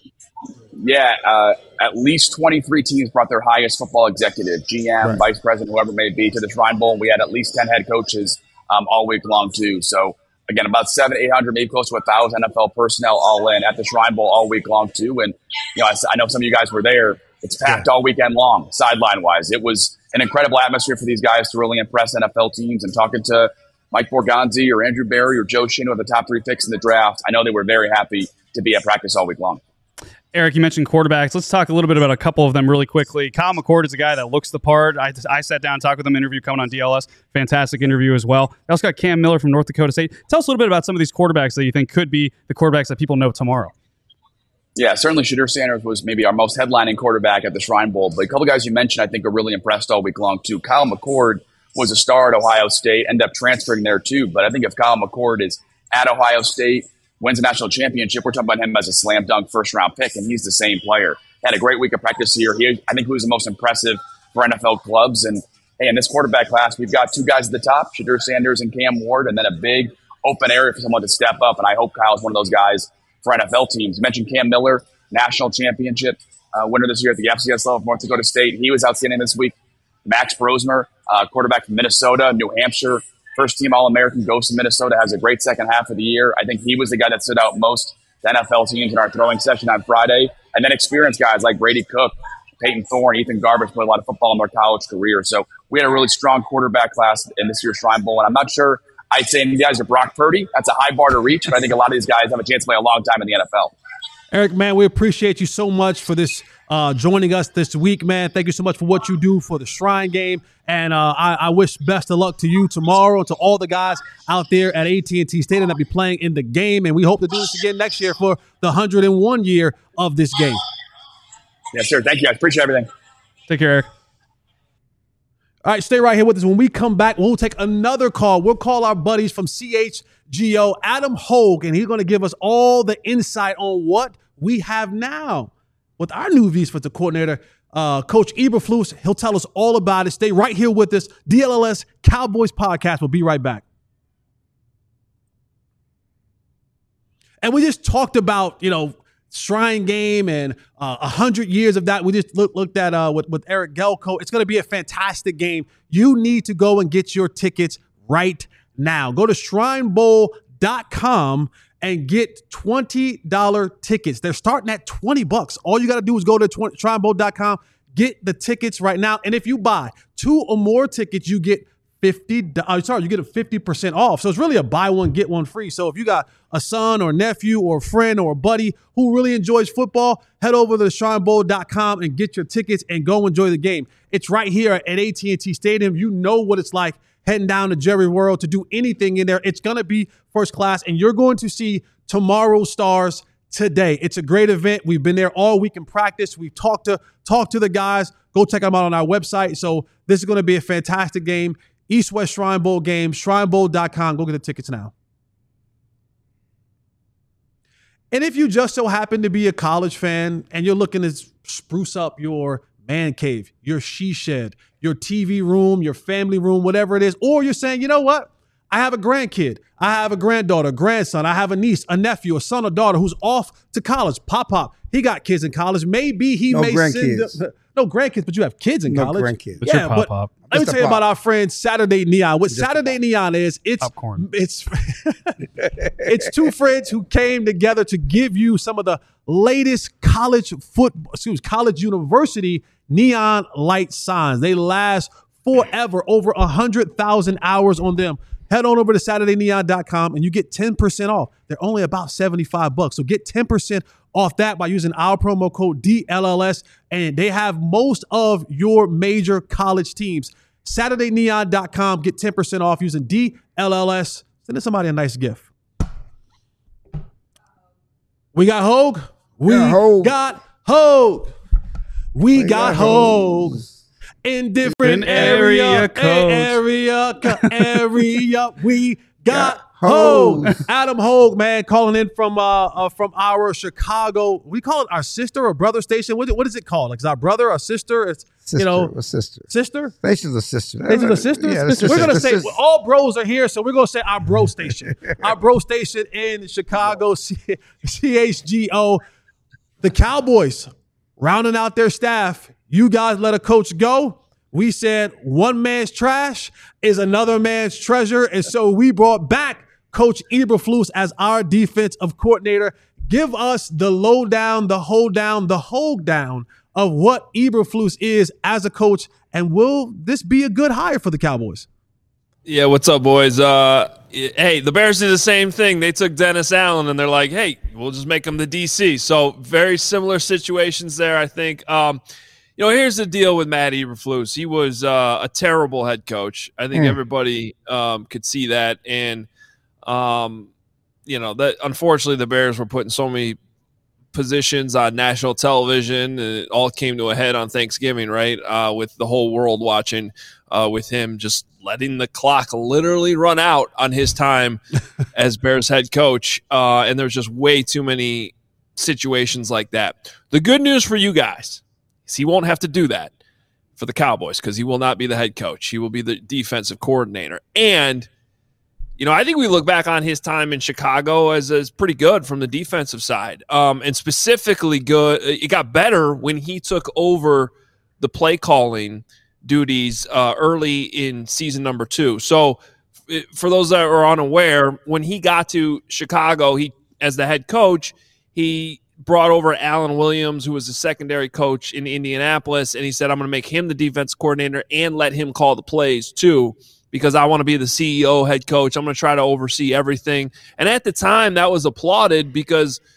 Yeah, uh, at least twenty-three teams brought their highest football executive, G M, right. Vice President, whoever it may be, to the Shrine Bowl. We had at least ten head coaches um, all week long, too. So, again, about seven, eight hundred, maybe close to one thousand N F L personnel all in at the Shrine Bowl all week long, too. And, you know, I, I know some of you guys were there. It's packed all weekend long, sideline-wise. It was an incredible atmosphere for these guys to really impress N F L teams. And talking to Mike Borgonzi or Andrew Berry or Joe Shino, the top three picks in the draft, I know they were very happy to be at practice all week long. Eric, you mentioned quarterbacks. Let's talk a little bit about a couple of them really quickly. Kyle McCord is a guy that looks the part. I, I sat down and talked with him, interview coming on D L S. Fantastic interview as well. I also got Cam Miller from North Dakota State. Tell us a little bit about some of these quarterbacks that you think could be the quarterbacks that people know tomorrow. Yeah, certainly Shedeur Sanders was maybe our most headlining quarterback at the Shrine Bowl. But a couple guys you mentioned I think are really impressed all week long, too. Kyle McCord was a star at Ohio State, ended up transferring there, too. But I think if Kyle McCord is at Ohio State, wins a national championship, we're talking about him as a slam dunk first-round pick, and he's the same player. Had a great week of practice here. He, I think he was the most impressive for N F L clubs. And, hey, in this quarterback class, we've got two guys at the top, Shedeur Sanders and Cam Ward, and then a big open area for someone to step up. And I hope Kyle's one of those guys for N F L teams. You mentioned Cam Miller, national championship uh, winner this year at the F C S level of North Dakota State. He was outstanding this week. Max Brosmer, uh, quarterback from Minnesota, New Hampshire, first-team All-American, goes to Minnesota, has a great second half of the year. I think he was the guy that stood out most to N F L teams in our throwing session on Friday. And then experienced guys like Brady Cook, Peyton Thorne, Ethan Garbage played a lot of football in their college career. So we had a really strong quarterback class in this year's Shrine Bowl. And I'm not sure I'd say any guys are Brock Purdy. That's a high bar to reach, but I think a lot of these guys have a chance to play a long time in the N F L. Eric, man, we appreciate you so much for this uh, joining us this week, man. Thank you so much for what you do for the Shrine Game. And uh, I, I wish best of luck to you tomorrow and to all the guys out there at A T and T Stadium that be playing in the game. And we hope to do this again next year for the one hundred and one year of this game. Yes, sir. Thank you. I appreciate everything. Take care, Eric. All right, stay right here with us. When we come back, we'll take another call. We'll call our buddies from C H G O, Adam Hogue, and he's going to give us all the insight on what we have now with our new defensive coordinator, uh, Coach Eberflus. He'll tell us all about it. Stay right here with us. D L L S Cowboys Podcast. We'll be right back. And we just talked about, you know, Shrine Game and uh, one hundred years of that. We just look, looked at uh, with, with Eric Gelko. It's going to be a fantastic game. You need to go and get your tickets right now. Go to shrine bowl dot com and get twenty dollars tickets. They're starting at twenty bucks. All you got to do is go to shrine bowl dot com, get the tickets right now. And if you buy two or more tickets, you get fifty. Uh, sorry, you get a fifty percent off. So it's really a buy one, get one free. So if you got a son or nephew or a friend or a buddy who really enjoys football, head over to shrine bowl dot com and get your tickets and go enjoy the game. It's right here at A T and T Stadium. You know what it's like heading down to Jerry World to do anything in there. It's going to be first class, and you're going to see tomorrow's stars today. It's a great event. We've been there all week in practice. We've talked to talked to the guys. Go check them out on our website. So this is going to be a fantastic game. East-West Shrine Bowl game, shrine bowl dot com. Go get the tickets now. And if you just so happen to be a college fan and you're looking to spruce up your man cave, your she shed, your T V room, your family room, whatever it is, or you're saying, you know what? I have a grandkid. I have a granddaughter, grandson. I have a niece, a nephew, a son or daughter who's off to college. Pop, pop. He got kids in college. Maybe he no may grandkids. send them. No grandkids, but you have kids in no college. Grandkids. But Yeah, your but pop-up. let me Just tell you a pop. about our friend Saturday Neon. What Just a Saturday pop. Neon is, it's Popcorn. it's it's two friends who came together to give you some of the latest college football, excuse me, college university neon light signs. They last forever, over a hundred thousand hours on them. Head on over to saturday neon dot com and you get ten percent off. They're only about seventy-five bucks. So get ten percent off that by using our promo code D L L S. And they have most of your major college teams. saturday neon dot com. Get ten percent off using D L L S. Send somebody a nice gift. We got Hogue. We Yeah, Hogue. got Hogue. We, We got got Hogue. Hogue. In different Different area area, codes. area, co- area, we got Got Hogue. Hogue. Adam Hogue, man, calling in from uh, uh from our Chicago. We call it our sister or brother station. What, what is it called? Like, is our brother or sister? It's Sister, you know, a sister. sister. Station's a sister. Station's a sister. Yeah, the Sister. We're gonna the say sister. well, all bros are here, so we're gonna say our bro station, our bro station in Chicago, C H G O. The Cowboys rounding out their staff. You guys let a coach go. We said one man's trash is another man's treasure, and so we brought back Coach Eberflus as our defensive coordinator. Give us the lowdown, the hold down, the hold down of what Eberflus is as a coach, and will this be a good hire for the Cowboys? Yeah, what's up, boys? Uh, hey, the Bears did the same thing. They took Dennis Allen, and they're like, hey, we'll just make him the D C. So very similar situations there, I think. Um, you know, here's the deal with Matt Eberflus. He was uh, a terrible head coach. I think Mm. everybody um, could see that. And, um, you know, that unfortunately the Bears were putting so many positions on national television, and it all came to a head on Thanksgiving, right? Uh, with the whole world watching, uh, with him just letting the clock literally run out on his time as Bears head coach. Uh, and there's just way too many situations like that. The good news for you guys is he won't have to do that for the Cowboys because he will not be the head coach. He will be the defensive coordinator. And you know, I think we look back on his time in Chicago as, as pretty good from the defensive side, um, and specifically good. It got better when he took over the play calling duties uh, early in season number two. So for those that are unaware, when he got to Chicago, he as the head coach, he brought over Alan Williams, who was the secondary coach in Indianapolis, and he said, I'm going to make him the defense coordinator and let him call the plays too, because I want to be the C E O, head coach. I'm going to try to oversee everything. And at the time, that was applauded because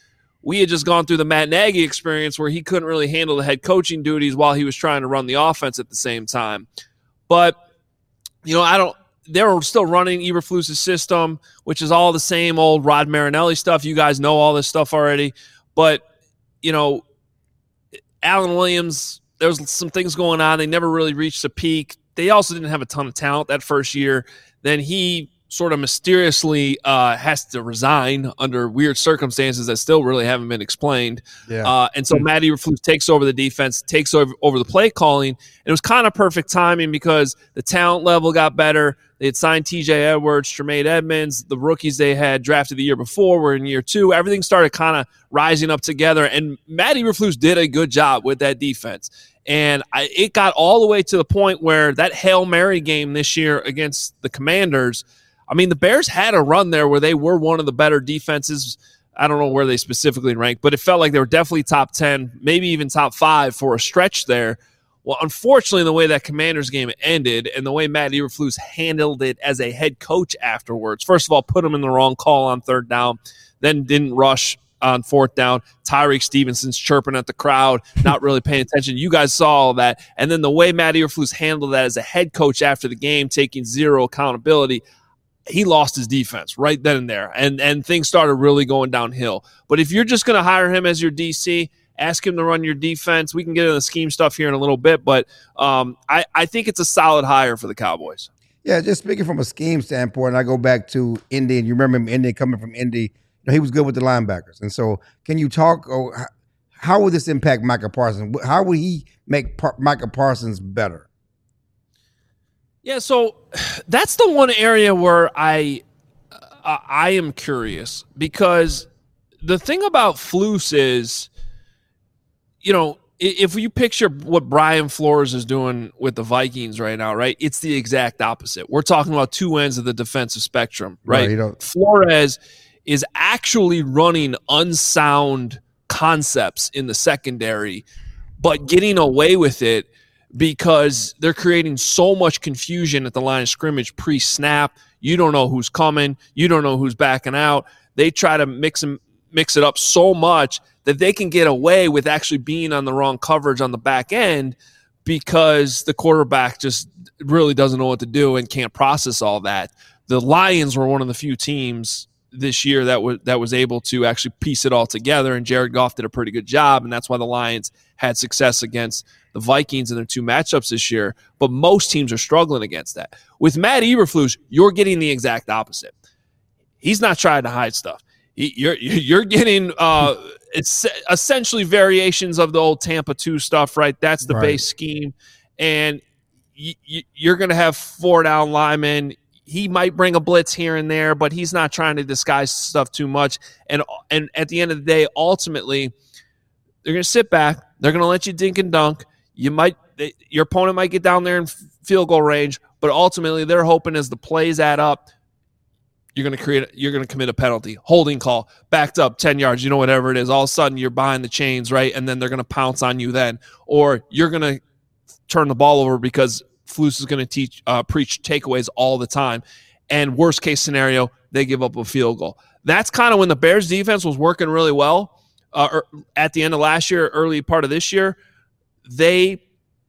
we had just gone through the Matt Nagy experience where he couldn't really handle the head coaching duties while he was trying to run the offense at the same time. But, you know, I don't – they were still running Eberflus's system, which is all the same old Rod Marinelli stuff. You guys know all this stuff already. But, you know, Alan Williams, there was some things going on. They never really reached a peak. They also didn't have a ton of talent that first year. Then he sort of mysteriously uh, has to resign under weird circumstances that still really haven't been explained. Yeah. Uh, and so Matt Eberflus takes over the defense, takes over, over the play calling. And it was kind of perfect timing because the talent level got better. They had signed T J Edwards, Tremaine Edmonds. The rookies they had drafted the year before were in year two. Everything started kind of rising up together. And Matt Eberflus did a good job with that defense. And I, it got all the way to the point where that Hail Mary game this year against the Commanders, I mean, the Bears had a run there where they were one of the better defenses. I don't know where they specifically ranked, but it felt like they were definitely top ten, maybe even top five for a stretch there. Well, unfortunately, the way that Commanders game ended and the way Matt Eberflus handled it as a head coach afterwards, first of all, put him in the wrong call on third down, then didn't rush on fourth down. Tyreek Stevenson's chirping at the crowd, not really paying attention. You guys saw all that. And then the way Matt Eberflus handled that as a head coach after the game, taking zero accountability, he lost his defense right then and there, and and things started really going downhill. But if you're just going to hire him as your D C, ask him to run your defense. We can get into the scheme stuff here in a little bit, but um, I, I think it's a solid hire for the Cowboys. Yeah, just speaking from a scheme standpoint, I go back to Indy, and you remember him, Indy coming from Indy. You know, he was good with the linebackers. And so can you talk, oh, how will this impact Micah Parsons? How will he make Par- Micah Parsons better? Yeah, so that's the one area where I uh, I am curious, because the thing about Flus is, you know, if you picture what Brian Flores is doing with the Vikings right now, right, it's the exact opposite. We're talking about two ends of the defensive spectrum, right? right Flores is actually running unsound concepts in the secondary, but getting away with it because they're creating so much confusion at the line of scrimmage pre-snap. You don't know who's coming. You don't know who's backing out. They try to mix and mix it up so much that they can get away with actually being on the wrong coverage on the back end because the quarterback just really doesn't know what to do and can't process all that. The Lions were one of the few teams this year that was that was able to actually piece it all together, and Jared Goff did a pretty good job, and that's why the Lions had success against the Vikings in their two matchups this year. But most teams are struggling against that. With Matt Eberflus, you're getting the exact opposite. He's not trying to hide stuff. He, you're you're getting uh, it's essentially variations of the old Tampa two stuff, right? That's the right. base scheme, and you, you, you're going to have four down linemen. He might bring a blitz here and there, but he's not trying to disguise stuff too much. And and at the end of the day, ultimately, they're going to sit back. They're going to let you dink and dunk. You might they, your opponent might get down there in field goal range, but ultimately, they're hoping as the plays add up, you're going to create. You're going to commit a penalty, holding call, backed up ten yards. You know, whatever it is. All of a sudden, you're behind the chains, right? And then they're going to pounce on you then, or you're going to turn the ball over because Flus is going to teach, uh, preach takeaways all the time. And worst case scenario, they give up a field goal. That's kind of when the Bears defense was working really well uh, at the end of last year, early part of this year. They,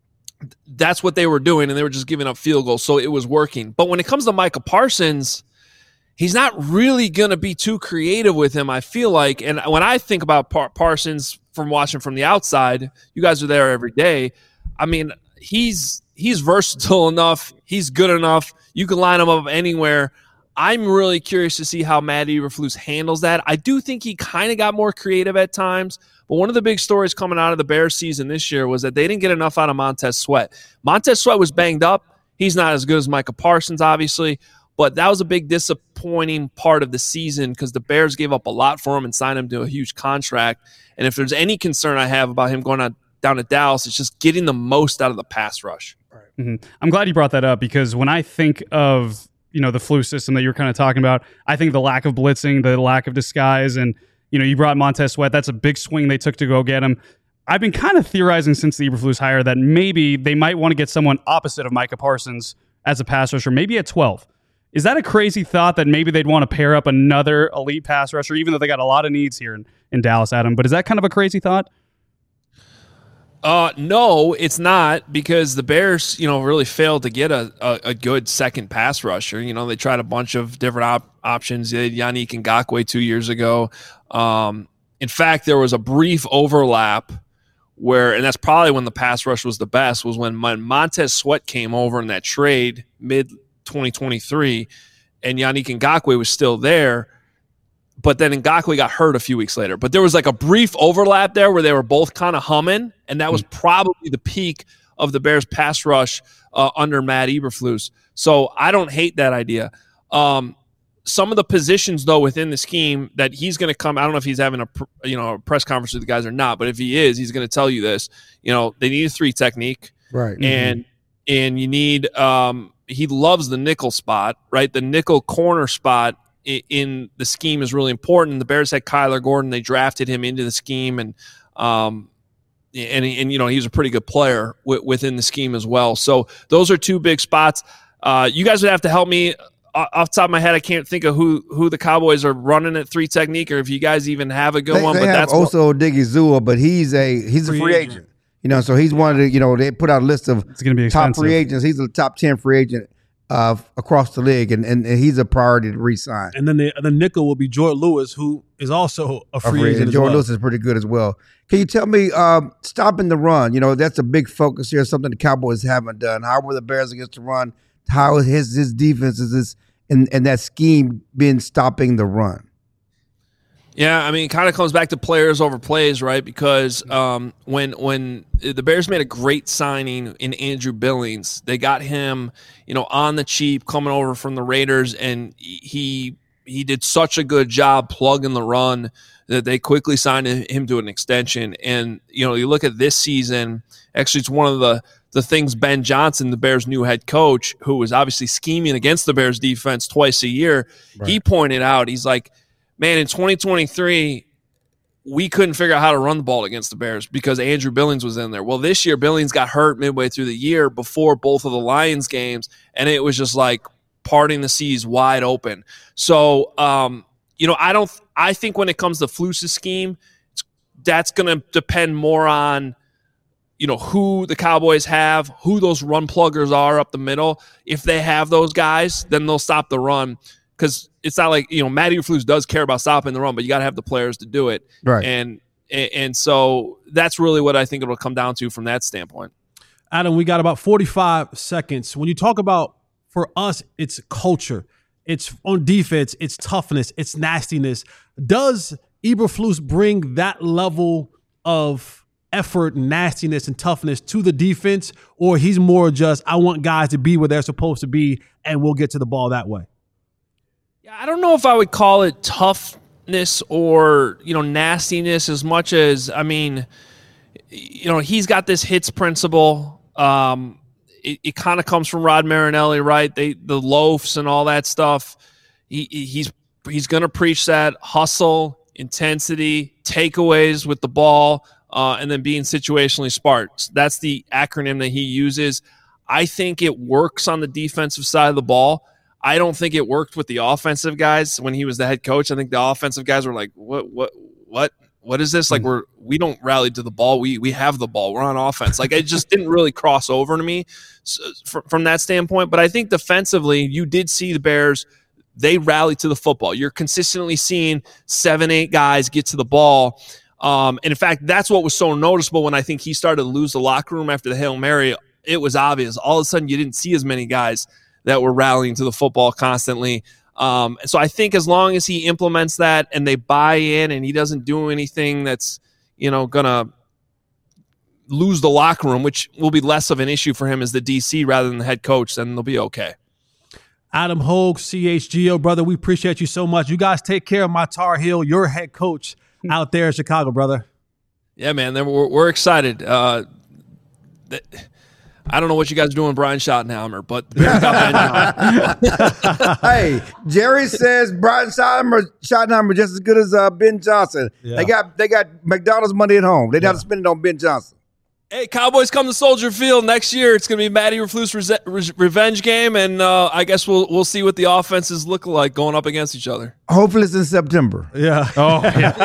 that's what they were doing, and they were just giving up field goals. So it was working. But when it comes to Micah Parsons, he's not really going to be too creative with him, I feel like. And when I think about Par- Parsons from watching from the outside, you guys are there every day. I mean, he's he's versatile enough. He's good enough. You can line him up anywhere. I'm really curious to see how Matt Eberflus handles that. I do think he kind of got more creative at times, but one of the big stories coming out of the Bears season this year was that they didn't get enough out of Montez Sweat. Montez Sweat was banged up. He's not as good as Micah Parsons, obviously, but that was a big disappointing part of the season because the Bears gave up a lot for him and signed him to a huge contract. And if there's any concern I have about him going on down to Dallas, it's just getting the most out of the pass rush. Mm-hmm. I'm glad you brought that up because when I think of, you know, the Flus system that you're kind of talking about, I think the lack of blitzing, the lack of disguise, and, you know, you brought Montez Sweat. That's a big swing they took to go get him. I've been kind of theorizing since the Eberflus hire that maybe they might want to get someone opposite of Micah Parsons as a pass rusher, maybe at twelve. Is that a crazy thought that maybe they'd want to pair up another elite pass rusher, even though they got a lot of needs here in, in Dallas, Adam? But is that kind of a crazy thought? Uh, no, it's not, because the Bears, you know, really failed to get a, a, a good second pass rusher. You know, they tried a bunch of different op- options. They had Yannick Ngakoue two years ago. Um, in fact, there was a brief overlap where, and that's probably when the pass rush was the best, was when Montez Sweat came over in that trade mid twenty twenty-three, and Yannick Ngakoue was still there. But then Ngakoue got hurt a few weeks later. But there was like a brief overlap there where they were both kind of humming, and that was probably the peak of the Bears pass rush uh, under Matt Eberflus. So I don't hate that idea. Um, some of the positions, though, within the scheme that he's going to come, I don't know if he's having a you know a press conference with the guys or not, but if he is, he's going to tell you this. You know, they need a three technique, right? And mm-hmm. and you need. Um, he loves the nickel spot, right? The nickel corner spot in the scheme is really important. The Bears had Kyler Gordon. They drafted him into the scheme, and um, and and you know he was a pretty good player w- within the scheme as well. So those are two big spots. Uh, you guys would have to help me. Off the top of my head, I can't think of who who the Cowboys are running at three technique, or if you guys even have a good they, one. They but have that's also Odigizua, but he's a he's free a free agent. agent. You know, so he's one of the you know they put out a list of It's going to be top expensive. free agents. He's a top ten free agent Uh, across the league, and, and, and he's a priority to re-sign. And then the, the nickel will be Jordan Lewis, who is also a free, A free agent. agent. As Jordan well. Lewis is pretty good as well. Can you tell me, um, stopping the run, you know, that's a big focus here, something the Cowboys haven't done. How were the Bears against the run? How is his, his defense is this, and, and that scheme been stopping the run? Yeah, I mean, it kind of comes back to players over plays, right? Because um, when when the Bears made a great signing in Andrew Billings, they got him, you know, on the cheap, coming over from the Raiders, and he he did such a good job plugging the run that they quickly signed him to an extension. And you know, you look at this season. Actually, it's one of the the things Ben Johnson, the Bears' new head coach, who was obviously scheming against the Bears defense twice a year, right. He pointed out, he's like, man, in twenty twenty-three, we couldn't figure out how to run the ball against the Bears because Andrew Billings was in there. Well, this year, Billings got hurt midway through the year before both of the Lions games, and it was just like parting the seas wide open. So, um, you know, I don't. I think when it comes to Flus's scheme, it's, that's going to depend more on, you know, who the Cowboys have, who those run pluggers are up the middle. If they have those guys, then they'll stop the run. Because it's not like, you know, Matt Eberflus does care about stopping the run, but you got to have the players to do it. Right. And and so that's really what I think it'll come down to from that standpoint. Adam, we got about forty-five seconds. When you talk about, for us, it's culture. It's on defense. It's toughness. It's nastiness. Does Eberflus bring that level of effort, nastiness, and toughness to the defense? Or he's more just, I want guys to be where they're supposed to be, and we'll get to the ball that way? I don't know if I would call it toughness or, you know, nastiness as much as, I mean, you know, he's got this hits principle. Um, it it kind of comes from Rod Marinelli, right? They the loafs and all that stuff. He he's he's going to preach that hustle, intensity, takeaways with the ball, uh, and then being situationally smart. That's the acronym that he uses. I think it works on the defensive side of the ball. I don't think it worked with the offensive guys when he was the head coach. I think the offensive guys were like, what, what, what, what is this? Like, we're, we don't rally to the ball. We, we have the ball. We're on offense. Like, it just didn't really cross over to me so, from, from that standpoint. But I think defensively, you did see the Bears, they rally to the football. You're consistently seeing seven, eight guys get to the ball. Um, and in fact, that's what was so noticeable when I think he started to lose the locker room after the Hail Mary. It was obvious. All of a sudden, you didn't see as many guys that were rallying to the football constantly. Um, so I think as long as he implements that and they buy in and he doesn't do anything that's, you know, going to lose the locker room, which will be less of an issue for him as the D C rather than the head coach, then they'll be okay. Adam Hogue, C H G O, brother, we appreciate you so much. You guys take care of my Tar Heel, your head coach out there in Chicago, brother. Yeah, man, we're, we're excited. Uh, that, I don't know what you guys are doing, Brian Schottenheimer, but the Bears got Ben Johnson. Hey, Jerry says Brian Schottenheimer, Schottenheimer just as good as uh, Ben Johnson. Yeah. They got they got McDonald's money at home. They'd yeah. have to spend it on Ben Johnson. Hey, Cowboys come to Soldier Field next year. It's going to be Matty Eberflus re- re- revenge game, and uh, I guess we'll we'll see what the offenses look like going up against each other. Hopefully it's in September. Yeah. Oh, yeah.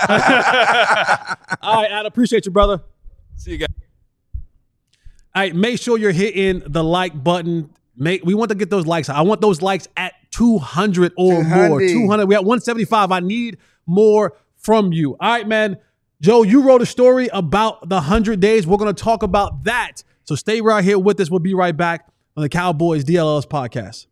All right, I appreciate you, brother. See you guys. All right, make sure you're hitting the like button. Make we want to get those likes. I want those likes at two hundred or more. two hundred. We at one seventy-five. I need more from you. All right, man. Joe, you wrote a story about the one hundred days. We're going to talk about that. So stay right here with us. We'll be right back on the Cowboys D L L S podcast.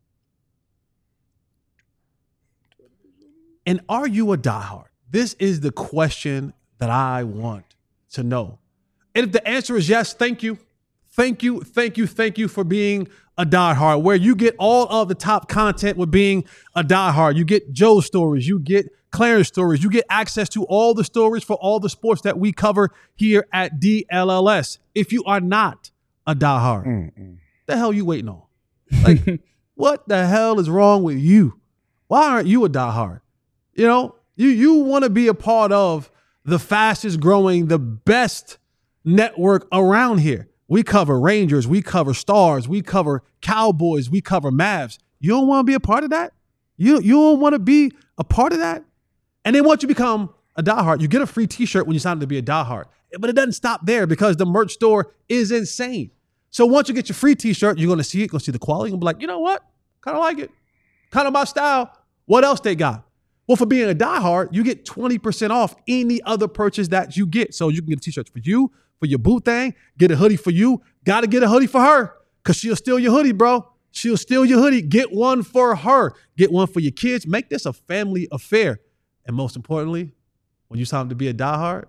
And are you a diehard? This is the question that I want to know. And if the answer is yes, thank you. Thank you, thank you, thank you for being a diehard, where you get all of the top content with being a diehard. You get Joe's stories, you get Clarence stories, you get access to all the stories for all the sports that we cover here at D L L S. If you are not a diehard, Mm-mm. the hell you waiting on? Like, what the hell is wrong with you? Why aren't you a diehard? You know, you you want to be a part of the fastest growing, the best network around here. We cover Rangers, we cover Stars, we cover Cowboys, we cover Mavs. You don't want to be a part of that? You, you don't want to be a part of that? And then once you become a diehard, you get a free t-shirt when you sign up to be a diehard. But it doesn't stop there because the merch store is insane. So once you get your free t-shirt, you're going to see it, you're going to see the quality, and be like, you know what? Kind of like it. Kind of my style. What else they got? Well, for being a diehard, you get twenty percent off any other purchase that you get. So you can get a t-shirt for you, for your boo thing, get a hoodie for you. Got to get a hoodie for her because she'll steal your hoodie, bro. She'll steal your hoodie. Get one for her. Get one for your kids. Make this a family affair. And most importantly, when you sign up to be a diehard,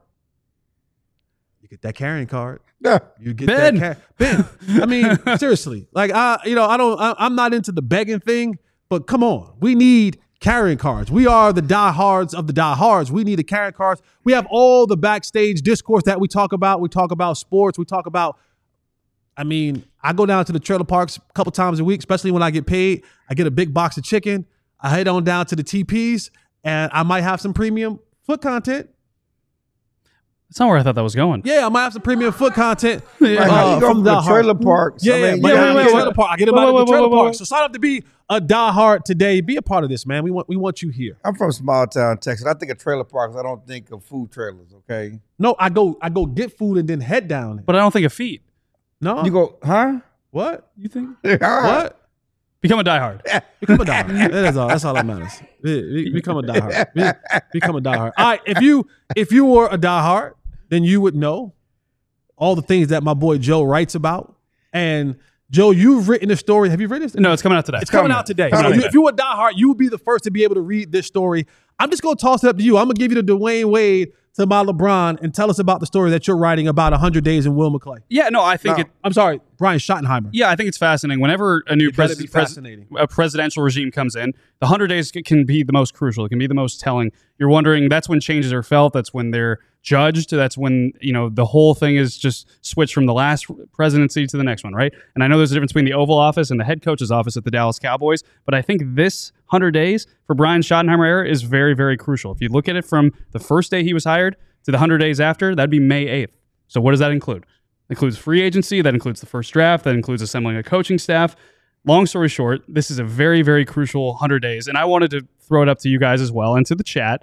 you get that carrying card. Yeah. You get Ben. that car- Ben. I mean, seriously. Like I, you know, I don't. I, I'm not into the begging thing, but come on, we need carrying cards. We are the diehards of the diehards. We need the carrying cards. We have all the backstage discourse that we talk about. We talk about sports. We talk about. I mean, I go down to the trailer parks a couple times a week, especially when I get paid. I get a big box of chicken. I head on down to the T Ps, and I might have some premium foot content. That's not where I thought that was going. Yeah, I might have some premium foot content. Like, uh, how you go from from the the trailer parks? Yeah, I yeah, mean, but you yeah, know, yeah, you yeah, know, trailer park. I get them Whoa, out whoa, of the whoa, trailer whoa, whoa. park. So sign up to be a diehard today. Be a part of this, man. We want we want you here. I'm from small town Texas. I think of trailer parks. I don't think of food trailers. Okay. No, I go I go get food and then head down. But I don't think of feet. No, You go, huh? what? You think? What? Become a diehard. Become a diehard. That is all. That's all that matters. Be- be- Become a diehard. Be- Become a diehard. All right. If you if you were a diehard, then you would know all the things that my boy Joe writes about. And Joe, you've written a story. Have you read this? No, it's coming out today. It's coming out today. Coming So out you, today. if you were a diehard, you would be the first to be able to read this story. I'm just going to toss it up to you. I'm going to give you the Dwayne Wade to my LeBron and tell us about the story that you're writing about one hundred days in Will McClay. Yeah, no, I think No. it. I'm sorry, Brian Schottenheimer. Yeah, I think it's fascinating. Whenever a new It better pres- be pres- fascinating. a presidential regime comes in, the one hundred days c- can be the most crucial. It can be the most telling. You're wondering, that's when changes are felt. That's when they're judged. That's when, you know, the whole thing is just switched from the last presidency to the next one, right? And I know there's a difference between the Oval Office and the head coach's office at the Dallas Cowboys, but I think this one hundred days for Brian Schottenheimer era is very, very crucial. If you look at it from the first day he was hired to the one hundred days after, that'd be May eighth. So what does that include? It includes free agency, that includes the first draft, that includes assembling a coaching staff. Long story short, this is a very, very crucial one hundred days, and I wanted to throw it up to you guys as well and to the chat.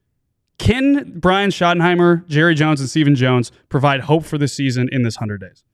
Can Brian Schottenheimer, Jerry Jones, and Stephen Jones provide hope for this season in this one hundred days?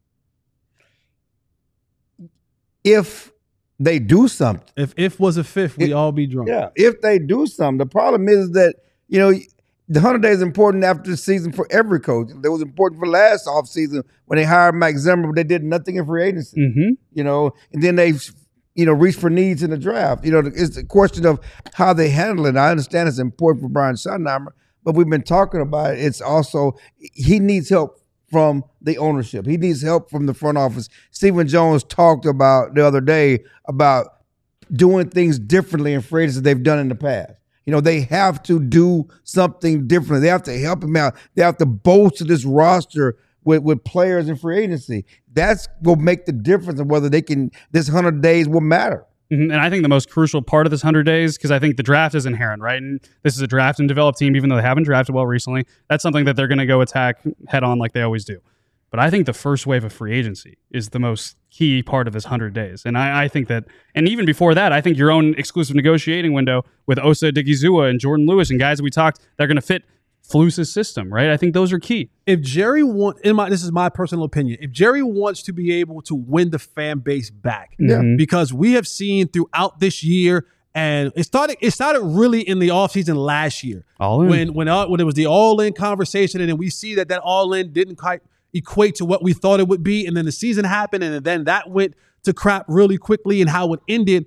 If they do something. If if was a fifth, we It- all be drunk. Yeah. If they do something. The problem is that, you know, the one hundred days is important after the season for every coach. It was important for last offseason when they hired Mike Zimmer, but they did nothing in free agency. Mm-hmm. You know, and then they, you know, reached for needs in the draft. You know, it's a question of how they handle it. I understand it's important for Brian Schottenheimer, but we've been talking about it. It's also, he needs help from the ownership. He needs help from the front office. Stephen Jones talked about the other day about doing things differently in free agency they've done in the past. You know, they have to do something different. They have to help him out. They have to bolster this roster with, with players in free agency. That's going to make the difference of whether they can, this one hundred days will matter. Mhm. And I think the most crucial part of this one hundred days, because I think the draft is inherent, right? And this is a draft and develop team, even though they haven't drafted well recently. That's something that they're going to go attack head on like they always do. But I think the first wave of free agency is the most key part of this one hundred days. And I, I think that, and even before that, I think your own exclusive negotiating window with Osa Odighizuwa and Jordan Lewis and guys that we talked, they're going to fit Flus's system, right? I think those are key. If Jerry want, in my this is my personal opinion, if Jerry wants to be able to win the fan base back, Yeah. because we have seen throughout this year, and it started it started really in the offseason last year. All in. When when uh, when it was the all-in conversation, and then we see that that all-in didn't quite equate to what we thought it would be, and then the season happened, and then that went to crap really quickly, and how it ended.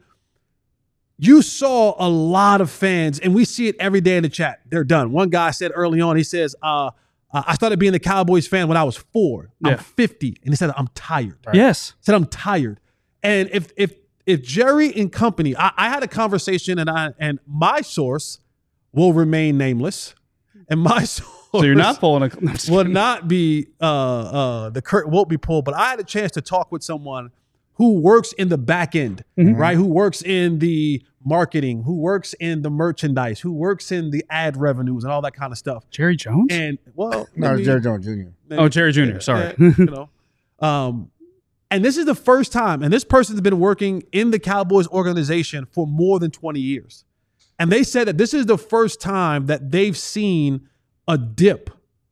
You saw a lot of fans, and we see it every day in the chat. They're done. One guy said early on, he says, uh, uh, I started being a Cowboys fan when I was four. I'm Yeah. fifty. And he said, I'm tired. Yes. He said, I'm tired. And if if if Jerry and company, I, I had a conversation, and I and my source will remain nameless. And my source So you're not pulling a... No, I'm just will kidding. not be, uh, uh, the curtain won't be pulled. But I had a chance to talk with someone who works in the back end, Mhm. right? Who works in the marketing, who works in the merchandise, who works in the ad revenues and all that kind of stuff. Jerry Jones? And well, No, I it's mean, Jerry Jones Junior Oh, Jerry Junior Sorry. yeah, you know, um, and this is the first time, and this person's been working in the Cowboys organization for more than twenty years. And they said that this is the first time that they've seen a dip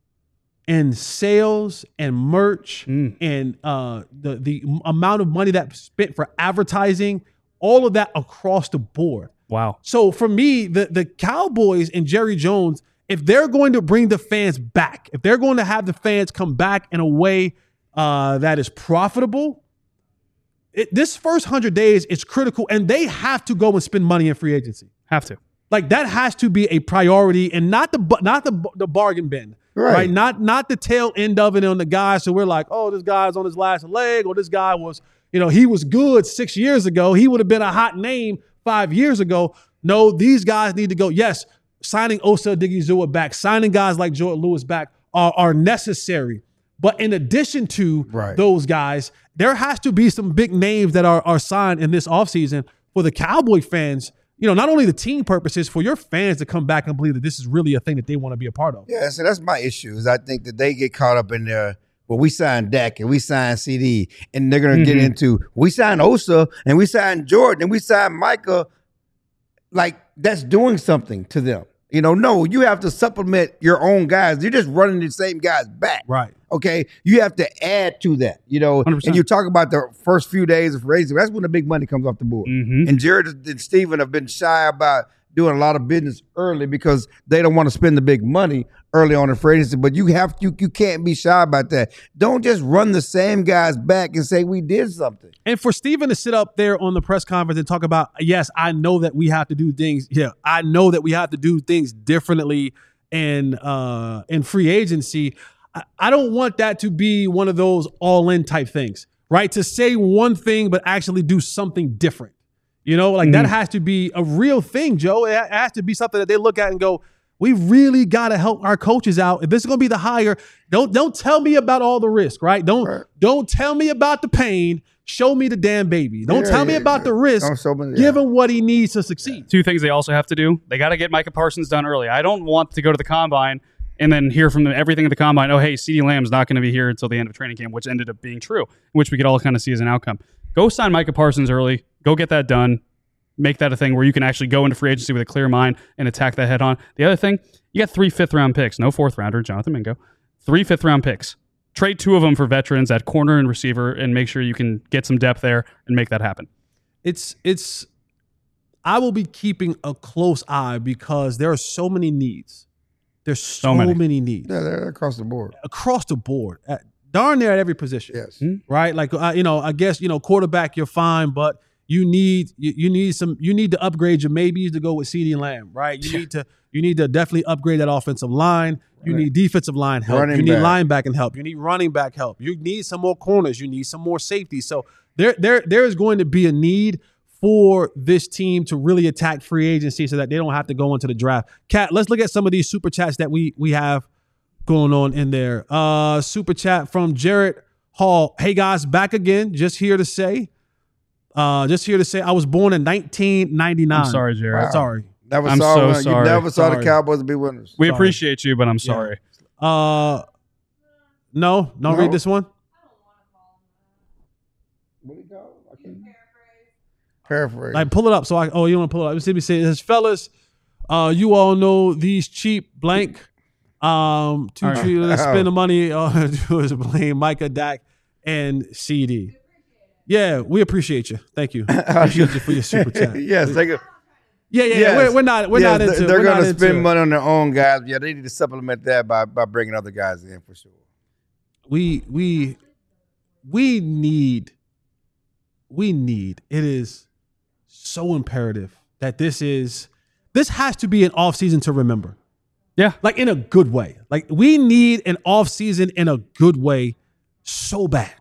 in sales and merch Mm. and uh, the the amount of money that's spent for advertising, all of that across the board. Wow. So for me, the the Cowboys and Jerry Jones, if they're going to bring the fans back, if they're going to have the fans come back in a way uh, that is profitable, it, this first one hundred days is critical, and they have to go and spend money in free agency. Have to. Like that has to be a priority, and not the bu- not the the bargain bin, Right. right? Not not the tail end of it on the guy. So we're like, oh, this guy's on his last leg, or this guy was, you know, he was good six years ago. He would have been a hot name five years ago. No, these guys need to go. Yes, signing Osa Odighizuwa back, signing guys like Jordan Lewis back are, are necessary. But in addition to Right. those guys, there has to be some big names that are, are signed in this offseason for the Cowboy fans. You know, not only the team purposes, for your fans to come back and believe that this is really a thing that they want to be a part of. Yeah, so that's my issue. Is I think that they get caught up in there. Well, we signed Dak and we signed C D, and they're going to get Mhm. into we signed Osa and we signed Jordan and we signed Micah. Like that's doing something to them. You know, no, you have to supplement your own guys. You're just running the same guys back. Right. Okay, you have to add to that. You know, one hundred percent. and you talk about the first few days of raising. That's when the big money comes off the board. Mhm. And Jared and Steven have been shy about doing a lot of business early because they don't want to spend the big money early on in free agency. But you have you you can't be shy about that. Don't just run the same guys back and say we did something. And for Steven to sit up there on the press conference and talk about, yes, I know that we have to do things. Yeah, I know that we have to do things differently in uh, in free agency. I, I don't want that to be one of those all-in type things, right? To say one thing but actually do something different. You know, like that has to be a real thing, Joe. It ha- it has to be something that they look at and go, we really got to help our coaches out. If this is going to be the hire, don't don't tell me about all the risk, right? Don't Right. don't tell me about the pain. Show me the damn baby. Don't Yeah, tell me yeah, about yeah. the risk. Don't show me- yeah. Give him what he needs to succeed. Two things they also have to do. They got to get Micah Parsons done early. I don't want to go to the combine and then hear from them everything at the combine. Oh, hey, CeeDee Lamb's not going to be here until the end of training camp, which ended up being true, which we could all kind of see as an outcome. Go sign Micah Parsons early. Go get that done. Make that a thing where you can actually go into free agency with a clear mind and attack that head on. The other thing, you got three fifth round picks, no fourth rounder, Jonathan Mingo. Three fifth round picks. Trade two of them for veterans at corner and receiver and make sure you can get some depth there and make that happen. It's it's I will be keeping a close eye because there are so many needs. There's so, many. many. needs Yeah, they're across the board. across the board, at, darn near at every position. Yes. Right? Like uh, you know, I guess you know, quarterback you're fine, but you need you, you need some you need to upgrade your maybes to go with CeeDee Lamb, right? You need to you need to definitely upgrade that offensive line. You need defensive line help. Running you need back. linebacker help. You need running back help. You need some more corners. You need some more safety. So there there there is going to be a need for this team to really attack free agency so that they don't have to go into the draft. Kat, let's look at some of these super chats that we we have going on in there. Uh, super chat from Jarrett Hall. Hey guys, back again. Just here to say, Uh, just here to say, I was born in nineteen ninety-nine. I'm sorry, Jared. Wow. Sorry. Never I'm saw so one. sorry. You never saw Sorry. the Cowboys be winners. We Sorry. appreciate you, but I'm sorry. Uh, no, don't No? read this one. What do you call it? I can't- Paraphrase. Like, pull it up. So I. Oh, you want to pull it up? Let me see. It says, fellas, uh, you all know these cheap blank. Um, to All right. treat, let's spend the money uh, to blame Micah, Dak, and C D. Yeah, we appreciate you. Thank you. Appreciate you for your super chat. yes, they go. Yeah, yeah, yeah. Yes. We're, we're not. We're yes, not they- into. They're we're going not to into spend it. money on their own guys. Yeah, they need to supplement that by by bringing other guys in for sure. We we we need. We need. It is so imperative that this is. This has to be an off season to remember. Yeah. Like in a good way. Like we need an off season in a good way so bad.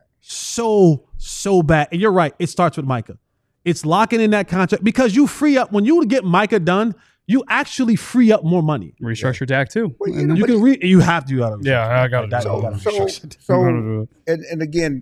So, so bad. And you're right. It starts with Micah. It's locking in that contract because you free up when you get Micah done, you actually free up more money. Restructure Dak too. Well, you And know, then- You can re you have to do that. Yeah, I gotta do That- that. you gotta So, restructure. so I gotta do it. and, and again,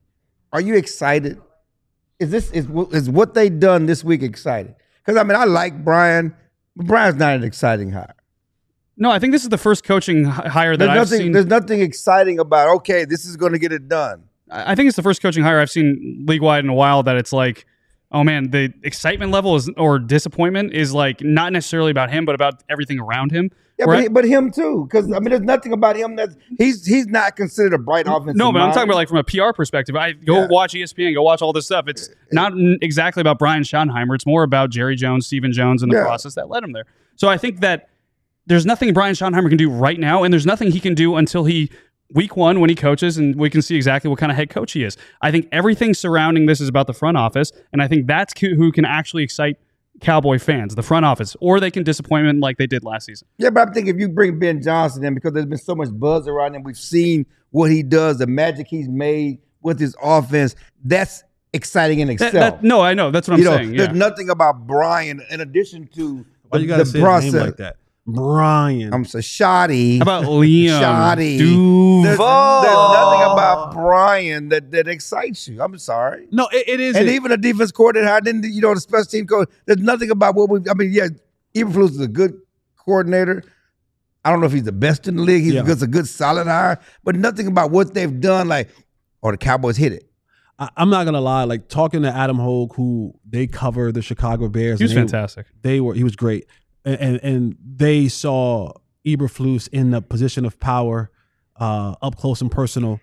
are you excited? Is this is is what they done this week exciting? Because I mean, I like Brian, but Brian's not an exciting hire. No, I think this is the first coaching hi- hire that There's I've nothing. seen. There's nothing exciting about. Okay, this is going to get it done. I I think it's the first coaching hire I've seen league wide in a while that it's like, oh man, the excitement level is or disappointment is like not necessarily about him, but about everything around him. Yeah, Where but, I- he, but him too. Because I mean, there's nothing about him that's he's he's not considered a bright offensive. No, but I'm mind. talking about like from a P R perspective. I go Yeah. watch E S P N, go watch all this stuff. It's not n- exactly about Brian Schottenheimer. It's more about Jerry Jones, Stephen Jones, and the Yeah. process that led him there. So I think that there's nothing Brian Schottenheimer can do right now, and there's nothing he can do until he week one when he coaches, and we can see exactly what kind of head coach he is. I think everything surrounding this is about the front office, and I think that's who who can actually excite Cowboy fans, the front office, or they can disappoint him like they did last season. Yeah, but I think if you bring Ben Johnson in, because there's been so much buzz around him, we've seen what he does, the magic he's made with his offense. That's exciting in That- itself. that- no, I know. That's what I'm you know, saying. there's Yeah. nothing about Brian in addition to Why the, you gotta the say his process. name like that? Brian. I'm so shoddy. How about Liam? Shoddy. Duval? There's, there's nothing about Brian that, that excites you. I'm sorry. no, it, it is. And even a defense coordinator, I didn't, you know, the special team coach. There's nothing about what we. I mean, yeah, Eberflus is a good coordinator. I don't know if he's the best in the league. He's Yeah. a good, a good solid hire, but nothing about what they've done. Like, or the Cowboys hit it. I, I'm not gonna lie. Like talking to Adam Hogue, who they cover the Chicago Bears. He was and they- fantastic. They were. He was great, and and, and they saw Eberflus in the position of power, uh, up close and personal.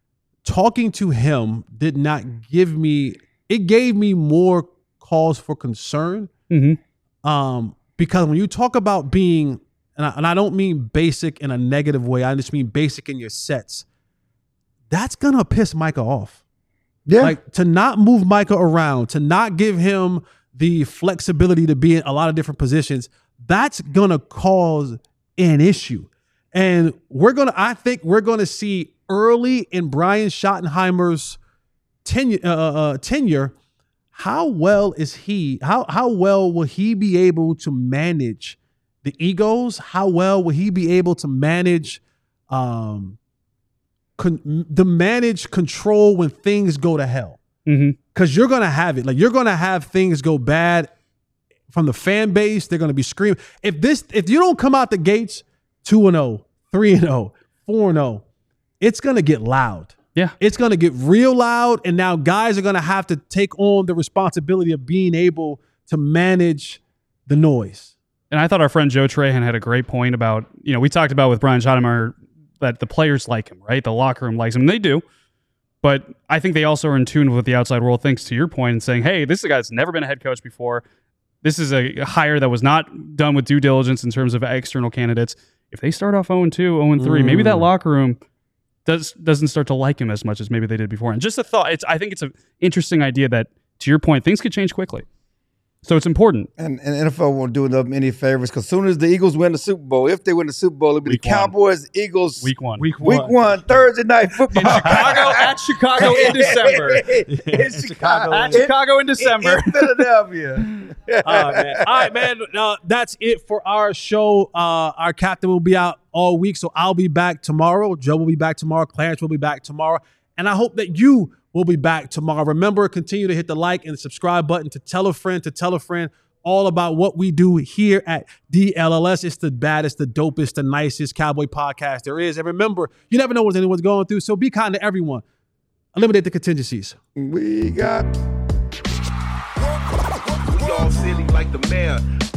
Talking to him did not give me. It gave me more cause for concern. Mm-hmm. Um, because when you talk about being, and I, and I don't mean basic in a negative way, I just mean basic in your sets. That's gonna piss Micah off. Yeah. Like to not move Micah around, to not give him the flexibility to be in a lot of different positions, that's gonna cause an issue. And we're gonna, I think we're gonna see early in Brian Schottenheimer's tenure, uh, uh, tenure, how well is he? How how well will he be able to manage the egos? How well will he be able to manage? Um, Con, the manage control when things go to hell, Mm-hmm. because you're gonna have it. Like you're gonna have things go bad from the fan base. They're gonna be screaming. If this, if you don't come out the gates two and zero, three and zero, four and zero, it's gonna get loud. Yeah. It's gonna get real loud, and now guys are gonna have to take on the responsibility of being able to manage the noise. And I thought our friend Joe Trahan had a great point about, you know, we talked about with Brian Schottenheimer that the players like him, right? The locker room likes him. And they do. But I think they also are in tune with what the outside world thinks, to your point, and saying, hey, this is a guy that's never been a head coach before. This is a hire that was not done with due diligence in terms of external candidates. If they start off oh and two, oh and three, Mm. maybe that locker room does, doesn't start to like him as much as maybe they did before. And just a thought, it's, I think it's an interesting idea that, to your point, things could change quickly. So it's important. And, and N F L won't do them any favors because soon as the Eagles win the Super Bowl, if they win the Super Bowl, it'll be Week the one. Cowboys, Eagles, Week one. Week week one, Thursday night football. In Chicago, at Chicago in December. in Chicago. At Chicago in In, December. in Philadelphia. All right, man. All right, man. Uh, that's it for our show. Uh, our captain will be out all week, so I'll be back tomorrow. Joe will be back tomorrow. Clarence will be back tomorrow. And I hope that you will be back tomorrow. Remember, continue to hit the like and subscribe button to tell a friend, to tell a friend all about what we do here at D L L S. It's the baddest, the dopest, the nicest Cowboy podcast there is. And remember, you never know what anyone's going through, so be kind to everyone. Eliminate the contingencies. We got... We all silly like the mayor.